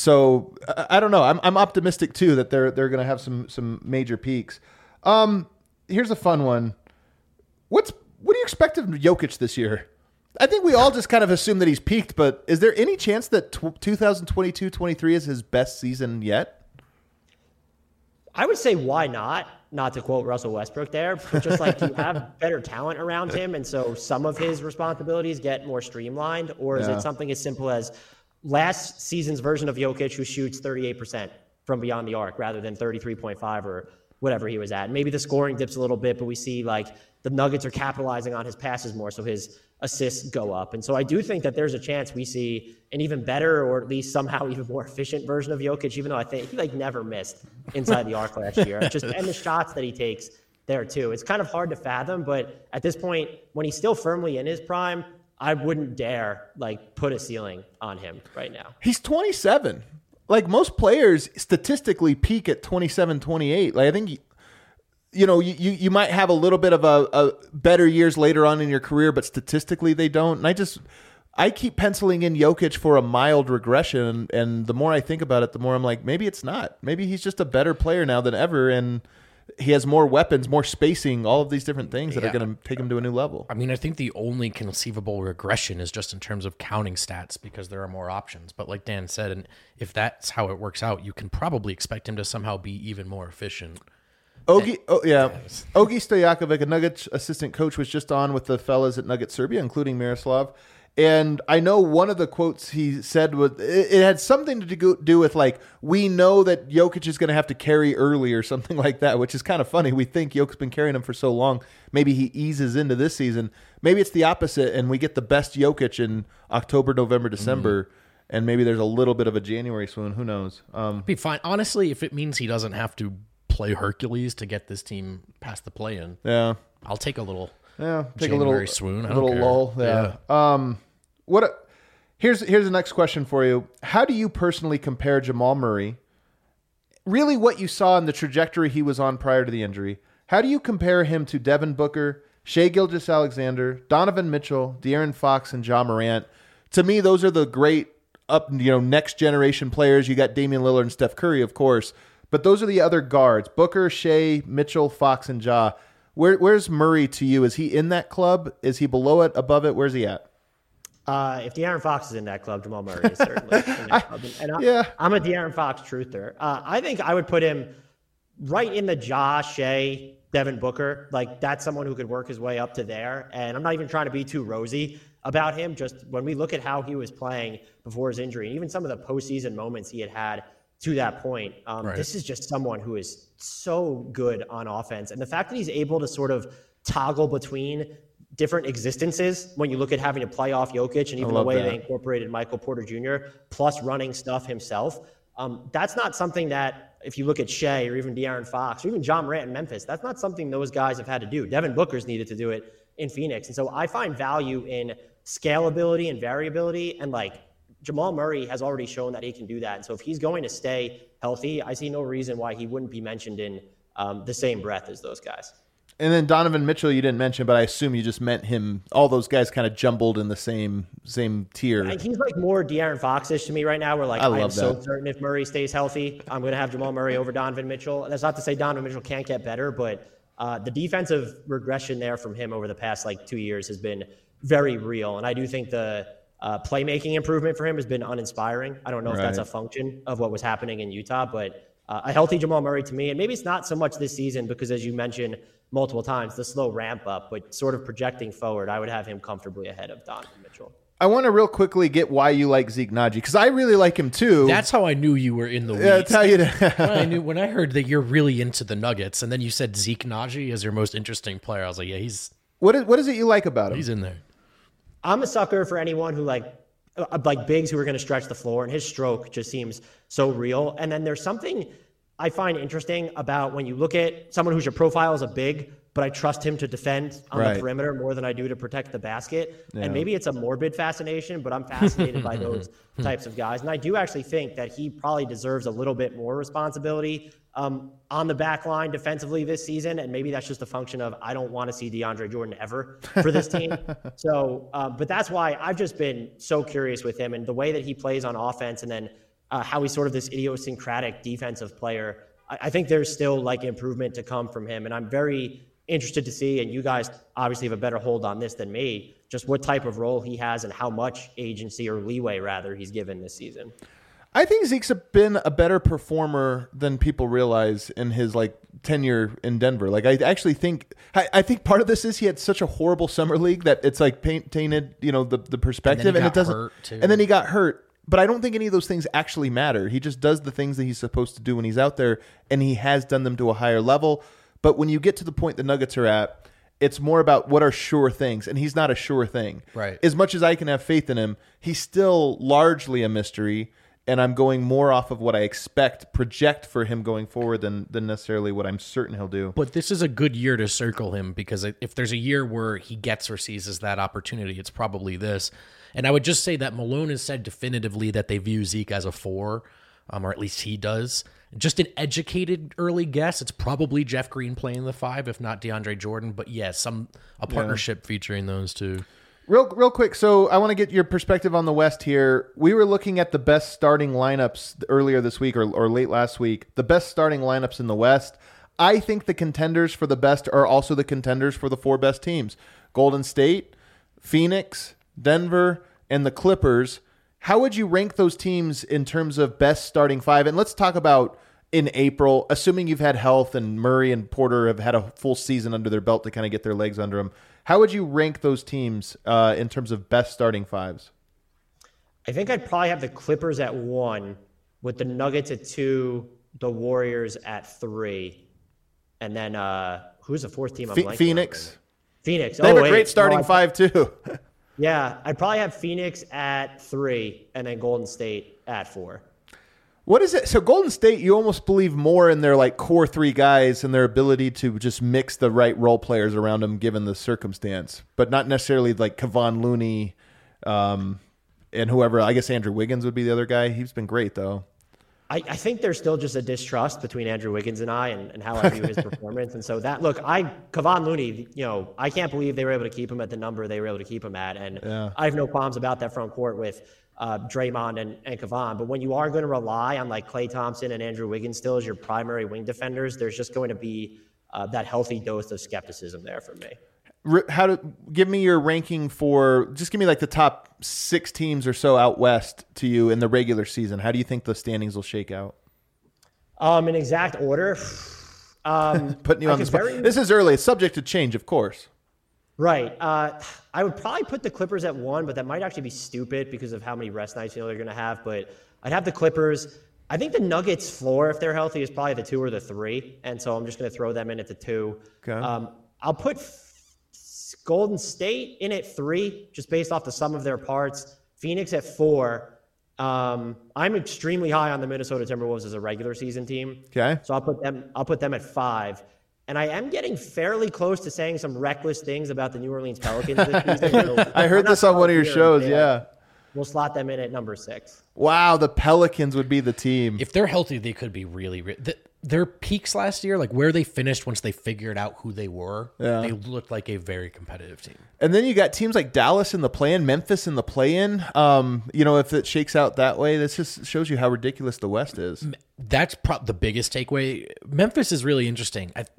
So I, I don't know. I'm I'm optimistic too that they're they're going to have some some major peaks. Um, here's a fun one. What's what do you expect of Jokic this year? I think we all just kind of assume that he's peaked, but is there any chance that twenty twenty-two twenty-three is his best season yet? I would say why not? Not to quote Russell Westbrook there, but just like, do you have better talent around him, and so some of his responsibilities get more streamlined? Or is Yeah. it something as simple as last season's version of Jokic who shoots thirty-eight percent from beyond the arc rather than thirty-three point five or whatever he was at? Maybe the scoring dips a little bit, but we see like the Nuggets are capitalizing on his passes more, so his assists go up. And so I do think that there's a chance we see an even better, or at least somehow even more efficient version of Jokic, even though I think he like never missed inside the arc last year. Just and the shots that he takes there too. It's kind of hard to fathom, but at this point, when he's still firmly in his prime, I wouldn't dare like put a ceiling on him right now. He's twenty-seven. Like most players statistically peak at twenty-seven, twenty-eight. Like I think, you know, you, you, you might have a little bit of a, a better years later on in your career, but statistically they don't. And I just, I keep penciling in Jokic for a mild regression. And the more I think about it, the more I'm like, maybe it's not. Maybe he's just a better player now than ever. And he has more weapons, more spacing, all of these different things that Yeah. are going to take him to a new level. I mean, I think the only conceivable regression is just in terms of counting stats because there are more options. But like Dan said, and if that's how it works out, you can probably expect him to somehow be even more efficient. Ogi, oh yeah, Ogi Stojakovic, a Nuggets assistant coach, was just on with the fellas at Nugget Serbia, including Miroslav. And I know one of the quotes he said was it, it had something to do, do with like, we know that Jokic is going to have to carry early or something like that, which is kind of funny. We think Jokic's been carrying him for so long. Maybe he eases into this season. Maybe it's the opposite, and we get the best Jokic in October, November, December, mm-hmm. and maybe there's a little bit of a January swoon. Who knows? Um, Be fine. Honestly, if it means he doesn't have to play Hercules to get this team past the play-in, yeah. I'll take a little. Yeah, take January a little swoon. I a don't little care. lull. Yeah. Um, what? A, here's here's the next question for you. How do you personally compare Jamal Murray? Really, what you saw in the trajectory he was on prior to the injury. How do you compare him to Devin Booker, Shai Gilgeous-Alexander, Donovan Mitchell, De'Aaron Fox, and Ja Morant? To me, those are the great up you know next generation players. You got Damian Lillard and Steph Curry, of course, but those are the other guards: Booker, Shai, Mitchell, Fox, and Ja. Where, where's Murray to you? Is he in that club? Is he below it, above it? Where's he at? Uh, if De'Aaron Fox is in that club, Jamal Murray is certainly in that club. And I, yeah. I'm a De'Aaron Fox truther. Uh, I think I would put him right in the Ja, Shai, Devin Booker. Like, that's someone who could work his way up to there. And I'm not even trying to be too rosy about him. Just when we look at how he was playing before his injury, and even some of the postseason moments he had had to that point, um, Right. this is just someone who is so good on offense. And the fact that he's able to sort of toggle between different existences when you look at having to play off Jokic and even the way that. they incorporated Michael Porter Junior plus running stuff himself. Um, that's not something that, if you look at Shea or even De'Aaron Fox or even John Morant in Memphis, that's not something those guys have had to do. Devin Booker's needed to do it in Phoenix. And so I find value in scalability and variability. And like Jamal Murray has already shown that he can do that. And so if he's going to stay healthy, I see no reason why he wouldn't be mentioned in um, the same breath as those guys. And then Donovan Mitchell, you didn't mention, but I assume you just meant him. All those guys kind of jumbled in the same same tier. And he's like more De'Aaron Fox-ish to me right now. Where like I I, love am so that. certain if Murray stays healthy, I'm going to have Jamal Murray over Donovan Mitchell. That's not to say Donovan Mitchell can't get better, but uh, the defensive regression there from him over the past like two years has been very real. And I do think the uh, playmaking improvement for him has been uninspiring. I don't know if that's Right. a function of what was happening in Utah, but uh, a healthy Jamal Murray to me, and maybe it's not so much this season because, as you mentioned multiple times, the slow ramp up, but sort of projecting forward, I would have him comfortably ahead of Donovan Mitchell. I want to real quickly get why you like Zeke Naji, because I really like him too. That's how I knew you were in the weeds. yeah, that's how you. when I knew when I heard that you're really into the Nuggets, and then you said Zeke Naji as your most interesting player, I was like, yeah, he's what is what is it you like about him? he's in there. I'm a sucker for anyone who like uh, like bigs who are going to stretch the floor, and his stroke just seems so real. And then there's something I find interesting about when you look at someone whose your profile is a big, but I trust him to defend on Right. the perimeter more than I do to protect the basket. Yeah. And maybe it's a morbid fascination, but I'm fascinated by those types of guys. And I do actually think that he probably deserves a little bit more responsibility um, on the back line defensively this season. And maybe that's just a function of I don't want to see DeAndre Jordan ever for this team. so, uh, but that's why I've just been so curious with him and the way that he plays on offense, and then uh, how he's sort of this idiosyncratic defensive player. I, I think there's still like improvement to come from him. And I'm very interested to see, and you guys obviously have a better hold on this than me, just what type of role he has and how much agency or leeway rather he's given this season. I think Zeke's been a better performer than people realize in his like tenure in Denver. Like I actually think I, I think part of this is he had such a horrible summer league that it's like paint, tainted, you know, the the perspective, And then he and, it got doesn't. hurt, too. And then he got hurt. But I don't think any of those things actually matter. He just does the things that he's supposed to do when he's out there, and he has done them to a higher level. But when you get to the point the Nuggets are at, it's more about what are sure things, and he's not a sure thing. Right. As much as I can have faith in him, he's still largely a mystery, and I'm going more off of what I expect, project for him going forward than than necessarily what I'm certain he'll do. But this is a good year to circle him, because if there's a year where he gets or seizes that opportunity, it's probably this. And I would just say that Malone has said definitively that they view Zeke as a four, um, or at least he does. Just an educated early guess, it's probably Jeff Green playing the five, if not DeAndre Jordan. But yeah, some a partnership featuring those two. Real, real quick. So I want to get your perspective on the West here. We were looking at the best starting lineups earlier this week or, or late last week. The best starting lineups in the West. I think the contenders for the best are also the contenders for the four best teams: Golden State, Phoenix, Denver, and the Clippers. How would you rank those teams in terms of best starting five? And let's talk about in April, assuming you've had health and Murray and Porter have had a full season under their belt to kind of get their legs under them. How would you rank those teams uh, in terms of best starting fives? I think I'd probably have the Clippers at one, with the Nuggets at two, the Warriors at three, and then uh, who's the fourth team? I'm Ph- blanking on Phoenix. right now. Phoenix. They have oh, a wait. great starting No, I- five too. Yeah, I'd probably have Phoenix at three, and then Golden State at four. What is it? So Golden State, you almost believe more in their like core three guys and their ability to just mix the right role players around them given the circumstance, but not necessarily like Kevon Looney um, and whoever. I guess Andrew Wiggins would be the other guy. He's been great though. I, I think there's still just a distrust between Andrew Wiggins and I, and, and how I view his performance. And so that, look, I Kevon Looney, you know, I can't believe they were able to keep him at the number they were able to keep him at. And Yeah. I have no qualms about that front court with uh, Draymond and, and Kevon. But when you are going to rely on like Klay Thompson and Andrew Wiggins still as your primary wing defenders, there's just going to be uh, that healthy dose of skepticism there for me. R- How to give me your ranking for? Just give me like the top six teams or so out west to you in the regular season. How do you think the standings will shake out? Um, in exact order, um, Putting you I on the could spot. very- This is early. It's subject to change, of course. Right. Uh, I would probably put the Clippers at one, but that might actually be stupid because of how many rest nights you know they're going to have. But I'd have the Clippers. I think the Nuggets floor, if they're healthy, is probably the two or the three. And so I'm just going to throw them in at the two. Okay. Um, I'll put Golden State in at three, just based off the sum of their parts. Phoenix at four. Um, I'm extremely high on the Minnesota Timberwolves as a regular season team. Okay. So I'll put them, I'll put them at five. And I am getting fairly close to saying some reckless things about the New Orleans Pelicans this season. So I heard this on one of your shows. They, Yeah. We'll slot them in at number six. Wow. The Pelicans would be the team. If they're healthy, they could be really, re- the, their peaks last year, like where they finished once they figured out who they were, Yeah. they looked like a very competitive team. And then you got teams like Dallas in the play-in, Memphis in the play-in. Um, you know, if it shakes out that way, this just shows you how ridiculous the West is. That's pro- the biggest takeaway. Memphis is really interesting. I,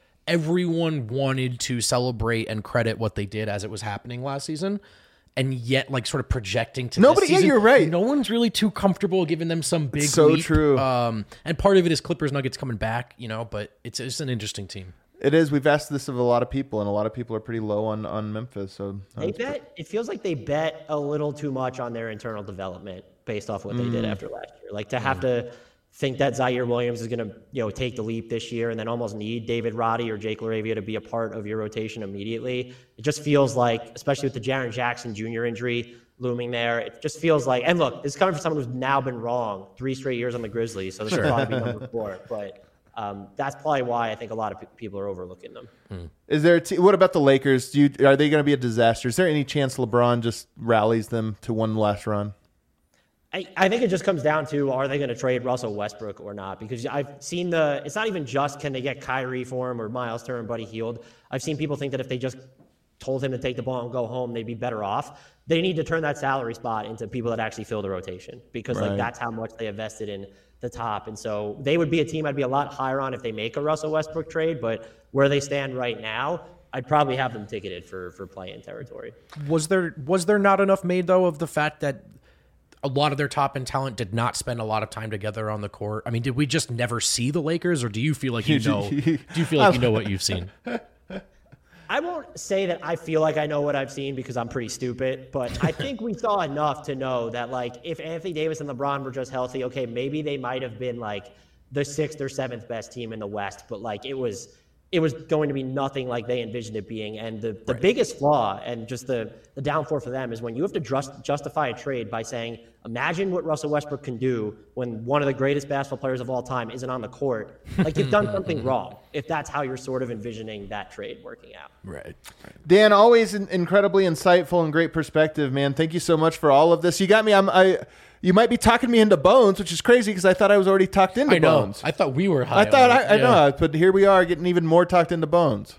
everyone wanted to celebrate and credit what they did as it was happening last season. And yet, like, sort of projecting to Nobody- this yeah, season, you're right. No one's really too comfortable giving them some big so leap. true. Um, and part of it is Clippers Nuggets coming back, you know, but it's it's an interesting team. It is. We've asked this of a lot of people, and a lot of people are pretty low on, on Memphis. So They bet, it feels like they bet a little too much on their internal development based off what they did after last year. Like to have to think that Zaire Williams is going to, you know, take the leap this year and then almost need David Roddy or Jake LaRavia to be a part of your rotation immediately. It just feels like, especially with the Jaren Jackson Junior injury looming there, it just feels like, and look, this is coming from someone who's now been wrong three straight years on the Grizzlies, so this will probably be number four. But um, that's probably why I think a lot of pe- people are overlooking them. Is there? A t- what about the Lakers? Do you, are they going to be a disaster? Is there any chance LeBron just rallies them to one last run? I, I think it just comes down to, are they going to trade Russell Westbrook or not? Because I've seen the, it's not even just can they get Kyrie for him or Miles Turner and Buddy Hield. I've seen people think that if they just told him to take the ball and go home, they'd be better off. They need to turn that salary spot into people that actually fill the rotation because Right. like that's how much they invested in the top. And so they would be a team I'd be a lot higher on if they make a Russell Westbrook trade, but where they stand right now, I'd probably have them ticketed for, for play-in territory. Was there was there not enough made, though, of the fact that a lot of their top end talent did not spend a lot of time together on the court? I mean, did we just never see the Lakers, or do you feel like you know? do you feel like you know what you've seen? I won't say that I feel like I know what I've seen because I'm pretty stupid, but I think we saw enough to know that, like, if Anthony Davis and LeBron were just healthy, okay, maybe they might have been like the sixth or seventh best team in the West, but like it was it was going to be nothing like they envisioned it being. And the, the Right. biggest flaw and just the, the downfall for them is when you have to just justify a trade by saying, imagine what Russell Westbrook can do when one of the greatest basketball players of all time isn't on the court. Like, you've done something wrong if that's how you're sort of envisioning that trade working out. Right. Dan, always in- incredibly insightful and great perspective, man. Thank you so much for all of this. You got me. I'm. I. You might be talking me into Bones, which is crazy because I thought I was already talked into I know. Bones. I thought we were high. I thought on I, it. I Yeah. know, but here we are getting even more talked into Bones.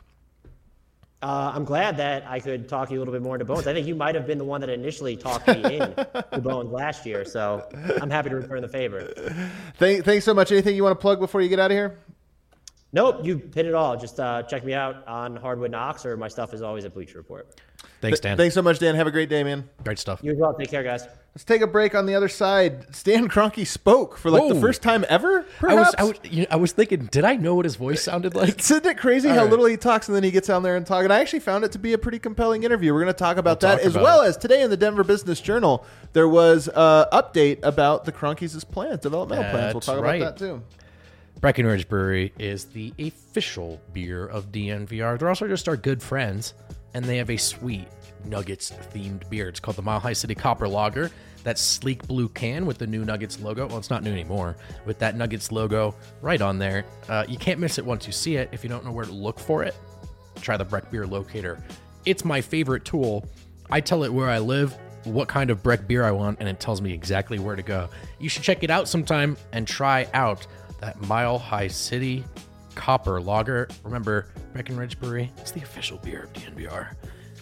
Uh, I'm glad that I could talk you a little bit more into Bones. I think you might have been the one that initially talked me in to Bones last year, so I'm happy to return the favor. Thank, thanks so much. Anything you want to plug before you get out of here? Nope, you hit it all. Just uh, check me out on Hardwood Knocks, or my stuff is always at Bleacher Report. Thanks, Dan. Thanks so much, Dan. Have a great day, man. Great stuff. You as well. Take care, guys. Let's take a break. On the other side, Stan Kroenke spoke for like the Whoa. first time ever, I was, perhaps? I was, you know, I was thinking, did I know what his voice sounded like? Isn't it crazy how right. little he talks and then he gets on there and talk? And I actually found it to be a pretty compelling interview. We're going to talk about We'll that talk as about well it. as today in the Denver Business Journal, there was an update about the Kroenkes' plans, developmental plans. We'll That's talk right. about that too. Breckenridge Brewery is the official beer of D N V R. They're also just our good friends, and they have a sweet Nuggets-themed beer. It's called the Mile High City Copper Lager. That sleek blue can with the new Nuggets logo. Well, it's not new anymore. With that Nuggets logo right on there. Uh, you can't miss it once you see it. If you don't know where to look for it, try the Breck Beer Locator. It's my favorite tool. I tell it where I live, what kind of Breck beer I want, and it tells me exactly where to go. You should check it out sometime and try out that Mile High City Copper Lager. Remember, Breckenridge Brewery, it's the official beer of D N V R.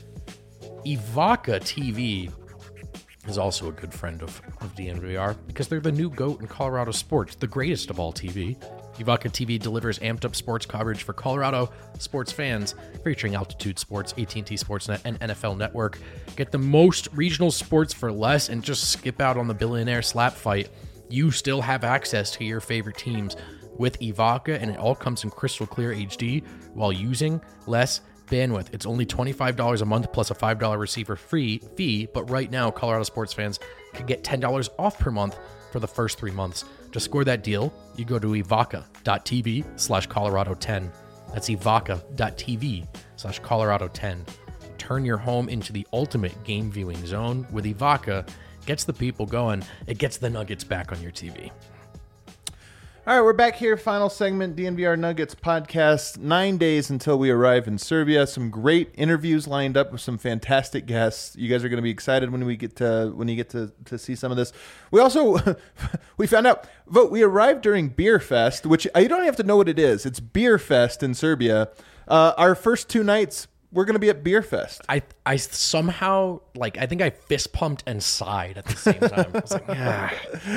Evoca T V is also a good friend of, of D N V R because they're the new GOAT in Colorado sports, the greatest of all T V. Evoca T V delivers amped up sports coverage for Colorado sports fans, featuring Altitude Sports, A T and T Sportsnet, and N F L Network. Get the most regional sports for less and just skip out on the billionaire slap fight. You still have access to your favorite teams with Evoca, and it all comes in crystal clear H D while using less bandwidth. It's only twenty-five dollars a month plus a five dollars receiver free fee, but right now Colorado sports fans can get ten dollars off per month for the first three months. To score that deal, you go to evoca.tv slash Colorado 10. That's evoca.tv slash Colorado 10. turn your home into the ultimate game viewing zone with Evoca. Gets the people going. It gets the Nuggets back on your T V. All right, we're back here. Final segment, D N V R Nuggets podcast. Nine days until we arrive in Serbia. Some great interviews lined up with some fantastic guests. You guys are going to be excited when we get to when you get to, to see some of this. We also we found out. Vote. We arrived during Beer Fest, which you don't have to know what it is. It's Beer Fest in Serbia. Uh, our first two nights, we're going to be at Beer Fest. I I somehow, like, I think I fist pumped and sighed at the same time. I was like, ah.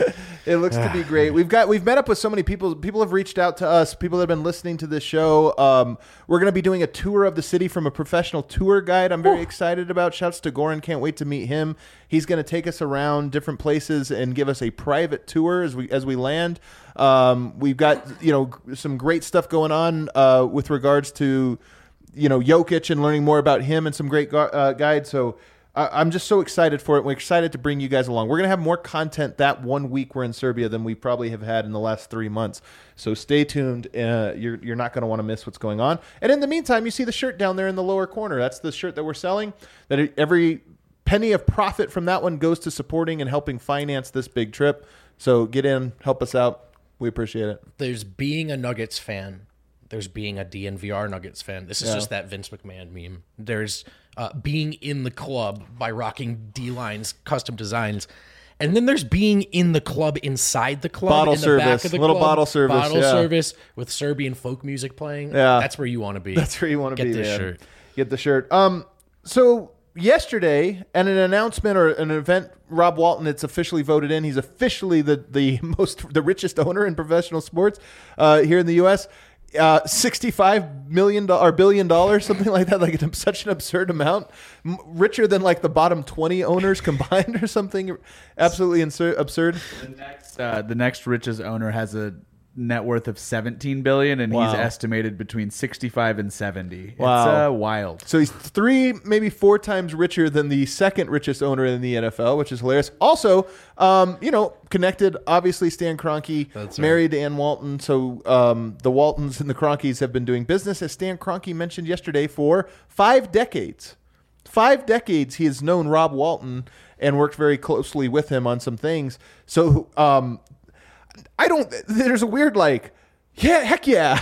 It looks to be great. We've got we've met up with so many people. People have reached out to us. People that have been listening to this show. Um, we're going to be doing a tour of the city from a professional tour guide. I'm very Ooh. excited about. Shouts to Goran. Can't wait to meet him. He's going to take us around different places and give us a private tour as we as we land. Um, we've got you know some great stuff going on uh, with regards to. you know, Jokic and learning more about him and some great gu- uh, guides. So I- I'm just so excited for it. We're excited to bring you guys along. We're going to have more content that one week we're in Serbia than we probably have had in the last three months. So stay tuned. Uh, you're, you're not going to want to miss what's going on. And in the meantime, you see the shirt down there in the lower corner. That's the shirt that we're selling. That every penny of profit from that one goes to supporting and helping finance this big trip. So get in, help us out. We appreciate it. There's being a Nuggets fan. There's being a D N V R Nuggets fan. This is Yeah. just that Vince McMahon meme. There's uh, being in the club by rocking D-Line's custom designs. And then there's being in the club inside the club. Bottle in the service. Back of the Little club, bottle service, Bottle yeah. service with Serbian folk music playing. Yeah. That's where you want to be. That's where you want to Get be, this man. shirt. Get the shirt. Um, so yesterday, at an announcement or an event, Rob Walton, it's officially voted in. He's officially the the most the richest owner in professional sports uh, here in the U S Uh, sixty-five million dollars or billion dollars, something like that, like it's such an absurd amount, M- richer than like the bottom twenty owners combined or something absolutely insur- absurd. The next, uh, the next richest owner has a net worth of seventeen billion dollars, and Wow. he's estimated between sixty-five and seventy. Wow. It's uh, wild. So he's three, maybe four times richer than the second richest owner in the N F L, which is hilarious. Also, um, you know, connected, obviously, Stan Kroenke, That's right. married to Ann Walton. So um, the Waltons and the Kroenkes have been doing business, as Stan Kroenke mentioned yesterday, for five decades. Five decades he has known Rob Walton and worked very closely with him on some things. So um, I don't, there's a weird like, yeah, heck yeah.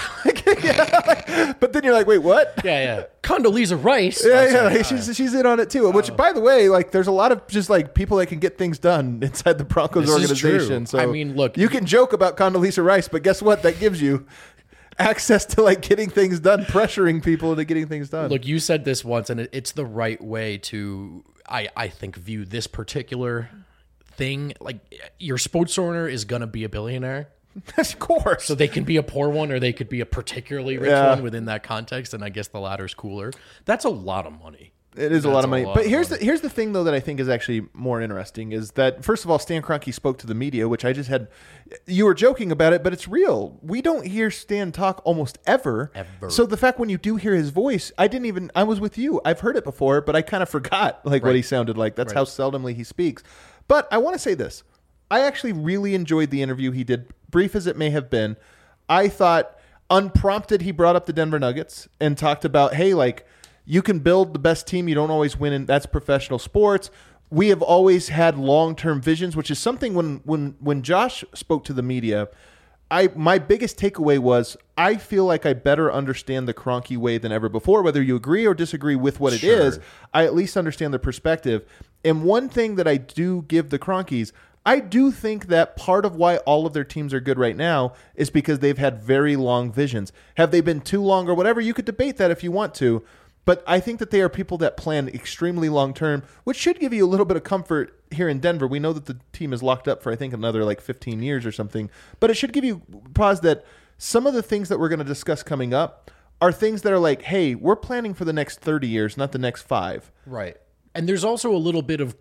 yeah. But then you're like, wait, what? Yeah, yeah. Condoleezza Rice. Yeah, Oh, yeah, sorry. like, she's she's in on it too. Which, by the way, like, there's a lot of just like people that can get things done inside the Broncos This is organization. true. So I mean, look- you can joke about Condoleezza Rice, but guess what? That gives you access to like getting things done, pressuring people into getting things done. Look, you said this once, and it- it's the right way to, I, I think, view this particular thing. Like, your sports owner is going to be a billionaire. of course. So they can be a poor one, or they could be a particularly rich Yeah. one within that context, and I guess the latter's cooler. That's a lot of money. It is a That's lot of money. lot But of here's money. the here's the thing though that I think is actually more interesting is that first of all, Stan Kroenke spoke to the media, which I just had. You were joking about it, but it's real. We don't hear Stan talk almost ever. Ever. So the fact when you do hear his voice, I didn't even. I was with you. I've heard it before, but I kind of forgot like what Right. he sounded like. That's Right. how seldomly he speaks. But I want to say this. I actually really enjoyed the interview he did, brief as it may have been. I thought unprompted he brought up the Denver Nuggets and talked about, hey, like, you can build the best team. You don't always win, and that's professional sports. We have always had long-term visions, which is something when when when Josh spoke to the media, I my biggest takeaway was I feel like I better understand the Kroenke way than ever before. Whether you agree or disagree with what it Sure. is, I at least understand the perspective. And one thing that I do give the Kroenkes, I do think that part of why all of their teams are good right now is because they've had very long visions. Have they been too long or whatever? You could debate that if you want to. But I think that they are people that plan extremely long term, which should give you a little bit of comfort here in Denver. We know that the team is locked up for, I think, another like fifteen years or something. But it should give you pause that some of the things that we're going to discuss coming up are things that are like, hey, we're planning for the next thirty years, not the next five. Right. And there's also a little bit of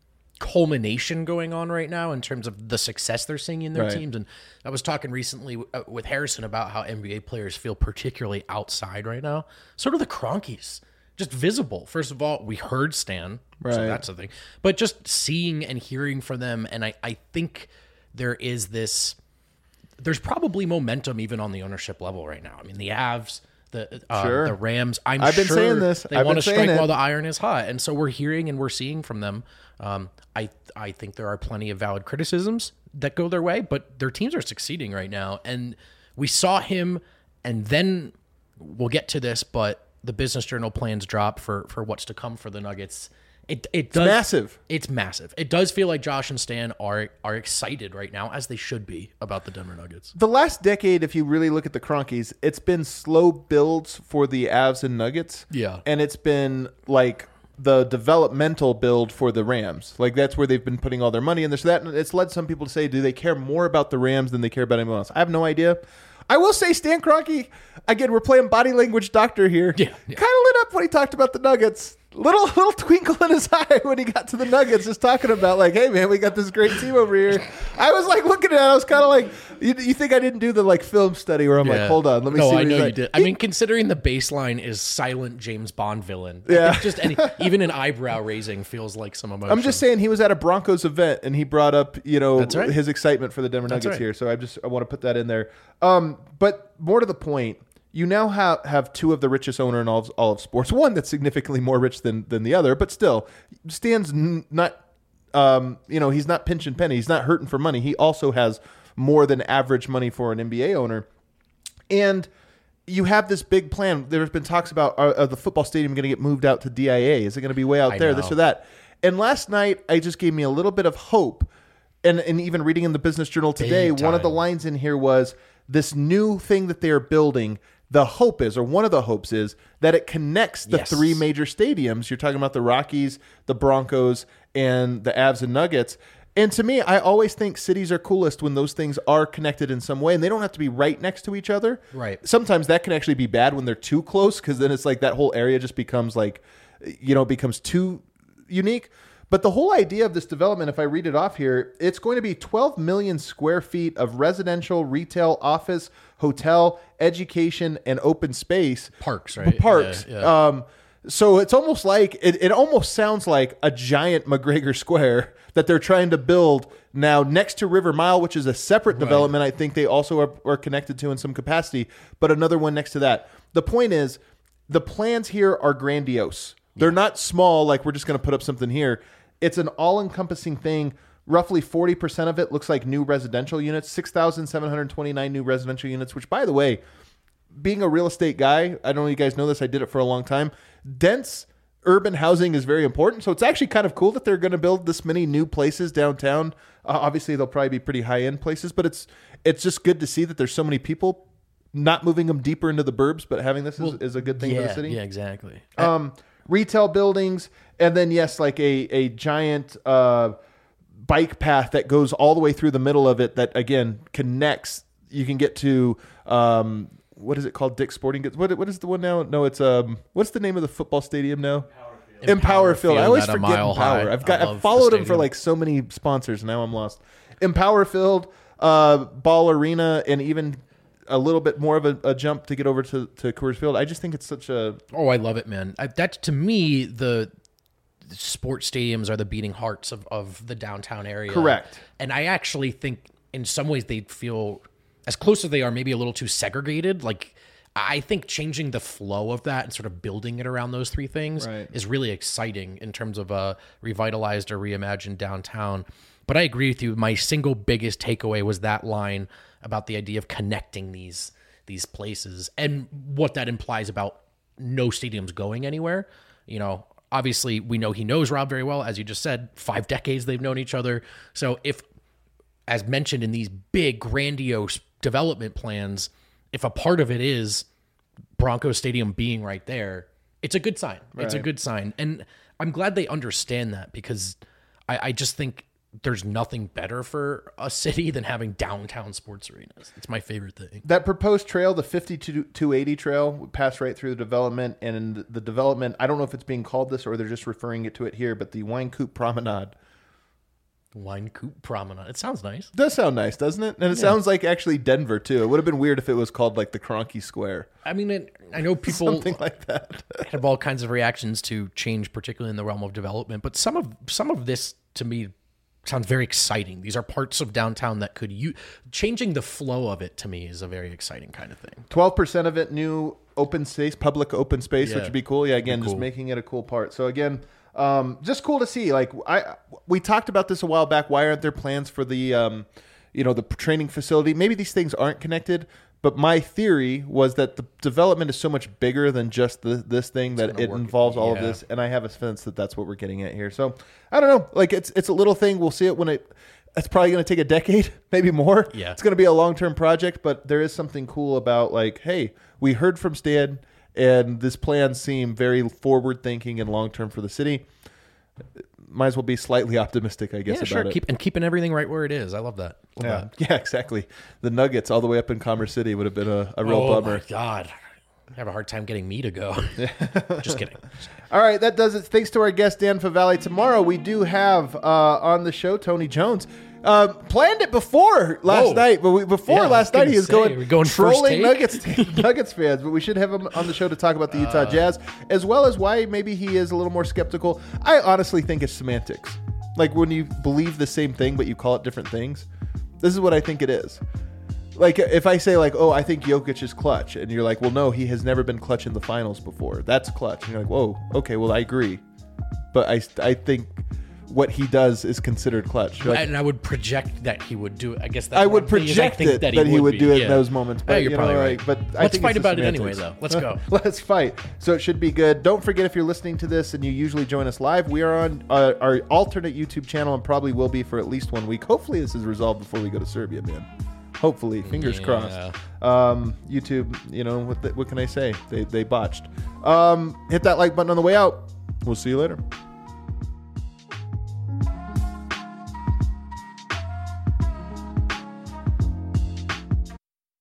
culmination going on right now in terms of the success they're seeing in their Right. teams. And I was talking recently w- uh, with Harrison about how N B A players feel particularly outside right now. So do the Kroenkes. Just visible. First of all, we heard Stan. Right. So that's the thing. But just seeing and hearing from them. And I, I think there is this, there's probably momentum even on the ownership level right now. I mean, the Avs, the uh, Sure. the Rams. I'm I've been sure saying this. they I've want been to saying strike it. while the iron is hot, and so we're hearing and we're seeing from them. Um, I I think there are plenty of valid criticisms that go their way, but their teams are succeeding right now, and we saw him, and then we'll get to this, but the Business Journal plans drop for for what's to come for the Nuggets. It it does massive. It's massive. It does feel like Josh and Stan are are excited right now, as they should be, about the Denver Nuggets. The last decade, if you really look at the Cronkies, it's been slow builds for the Avs and Nuggets. Yeah. And it's been like the developmental build for the Rams. Like that's where they've been putting all their money in this. So that it's led some people to say, do they care more about the Rams than they care about anyone else? I have no idea. I will say Stan Kroenke, again, we're playing body language doctor here. Yeah, yeah. Kind of lit up when he talked about the Nuggets. Little little twinkle in his eye when he got to the Nuggets, just talking about like, hey man, we got this great team over here. I was like looking at it, I was kind of like, you, you think I didn't do the like film study where I'm like, hold on, let me no, see. I what know he's you like. did. I mean, considering the baseline is silent James Bond villain, I Yeah. think just any, even an eyebrow raising feels like some emotion. I'm just saying he was at a Broncos event and he brought up, you know, That's right. his excitement for the Denver That's Nuggets right. here. So I just I want to put that in there. Um, but more to the point, you now have, have two of the richest owner in all of, all of sports. One that's significantly more rich than than the other, but still, Stan's n- not, um, you know, he's not pinching pennies. He's not hurting for money. He also has more than average money for an N B A owner. And you have this big plan. There's been talks about are, are the football stadium going to get moved out to D I A? Is it going to be way out I there? know. This or that? And last night, I just gave me a little bit of hope. And, and even reading in the Business Journal today, Big one of the time. lines in here was this new thing that they are building. The hope is, or one of the hopes is, that it connects the Yes. three major stadiums. You're talking about the Rockies, the Broncos, and the Avs and Nuggets. And to me, I always think cities are coolest when those things are connected in some way, and they don't have to be right next to each other. Right. Sometimes that can actually be bad when they're too close, because then it's like that whole area just becomes like, you know, becomes too unique. But the whole idea of this development, if I read it off here, it's going to be twelve million square feet of residential, retail, office, hotel, education, and open space. Parks, right? Parks. Yeah, yeah. Um, so it's almost like, it, it almost sounds like a giant McGregor Square that they're trying to build now next to River Mile, which is a separate development. I think they also are, are connected to in some capacity, but another one next to that. The point is, the plans here are grandiose. They're not small, like we're just going to put up something here. It's an all-encompassing thing. Roughly forty percent of it looks like new residential units, six thousand seven hundred twenty-nine new residential units, which, by the way, being a real estate guy, I don't know if you guys know this, I did it for a long time. Dense urban housing is very important. So it's actually kind of cool that they're going to build this many new places downtown. Uh, obviously, they'll probably be pretty high-end places, but it's it's just good to see that there's so many people not moving them deeper into the burbs, but having this is, is a good thing yeah, for the city. Yeah, exactly. Um, retail buildings, and then yes, like a a giant uh, bike path that goes all the way through the middle of it. That again connects. You can get to um, what is it called? Dick's Sporting Goods. What what is the one now? No, it's um. What's the name of the football stadium now? Empower Field. I always at a forget mile Empower. high. I've got I I've love followed the them for stadium. like so many sponsors. Now I'm lost. Empower Field, uh, Ball Arena, and even a little bit more of a, a jump to get over to, to Coors Field. I just think it's such a Oh, I love it, man. I, that to me, the sports stadiums are the beating hearts of, of the downtown area. Correct. And I actually think in some ways they feel, as close as they are, maybe a little too segregated. Like, I think changing the flow of that and sort of building it around those three things Right. is really exciting in terms of a revitalized or reimagined downtown. But I agree with you. My single biggest takeaway was that line about the idea of connecting these these places and what that implies about no stadiums going anywhere. You know, obviously we know he knows Rob very well. As you just said, five decades they've known each other. So if, as mentioned in these big, grandiose development plans, if a part of it is Broncos Stadium being right there, it's a good sign. It's a Right. good sign. And I'm glad they understand that, because I, I just think there's nothing better for a city than having downtown sports arenas. It's my favorite thing. that proposed trail, the fifty-two eighty trail, would pass right through the development. And in the development, I don't know if it's being called this or they're just referring it to it here, but the Wine Coupe Promenade. Wine Coupe Promenade. It sounds nice. Does sound nice, doesn't it? And it sounds like actually Denver too. It would have been weird if it was called like the Kroenke Square, I mean, it, I know people something like that. have all kinds of reactions to change, particularly in the realm of development. But some of some of this, to me, sounds very exciting. These are parts of downtown that could use changing the flow of it. To me, is a very exciting kind of thing. Twelve percent of it new open space, public open space, Yeah. which would be cool. Yeah, again, Be just cool. making it a cool part. So again, um, just cool to see. Like I, we talked about this a while back. Why aren't there plans for the, um, you know, the training facility? Maybe these things aren't connected. But my theory was that the development is so much bigger than just the, this thing that it work- involves all of yeah. this, and I have a sense that that's what we're getting at here. So I don't know. Like it's it's a little thing. We'll see it when it. It's probably going to take a decade, maybe more. Yeah. It's going to be a long term project, but there is something cool about like, hey, we heard from Stan, and this plan seemed very forward thinking and long term for the city. Might as well be slightly optimistic, I guess. Yeah, about sure. it. Keep and keeping everything right where it is. I love that. Love Yeah, that. yeah, exactly. The Nuggets all the way up in Commerce City would have been a, a real Oh bummer. my god, I have a hard time getting me to go. Just kidding. All right, that does it. Thanks to our guest, Dan Favale. Tomorrow we do have uh, on the show Tony Jones. Uh, planned it before last Whoa. night, but we, before Yeah, I was last night gonna he was say, going, we're going first trolling take? Nuggets Nuggets fans. But we should have him on the show to talk about the Utah Uh. Jazz, as well as why maybe he is a little more skeptical. I honestly think it's semantics. Like when you believe the same thing but you call it different things. This is what I think it is. Like if I say like, oh, I think Jokic is clutch, and you're like, well, no, he has never been clutch in the finals before. That's clutch. And you're like, whoa, okay, well, I agree, but I I think what he does is considered clutch. You're like, And I would project that he would do it. I guess that's I what would I'm thinking, is I project think it that he would be. do it in Yeah. those moments. But Yeah, you're you probably know, right. like, but I Let's think fight it's the about it anyway, semantics. though. Let's go. Let's fight. So it should be good. Don't forget, if you're listening to this and you usually join us live, we are on uh, our alternate YouTube channel and probably will be for at least one week. Hopefully, this is resolved before we go to Serbia, man. Hopefully, fingers Yeah. crossed. Um, YouTube, you know, what, the, what can I say? They, they botched. Um, hit that like button on the way out. We'll see you later.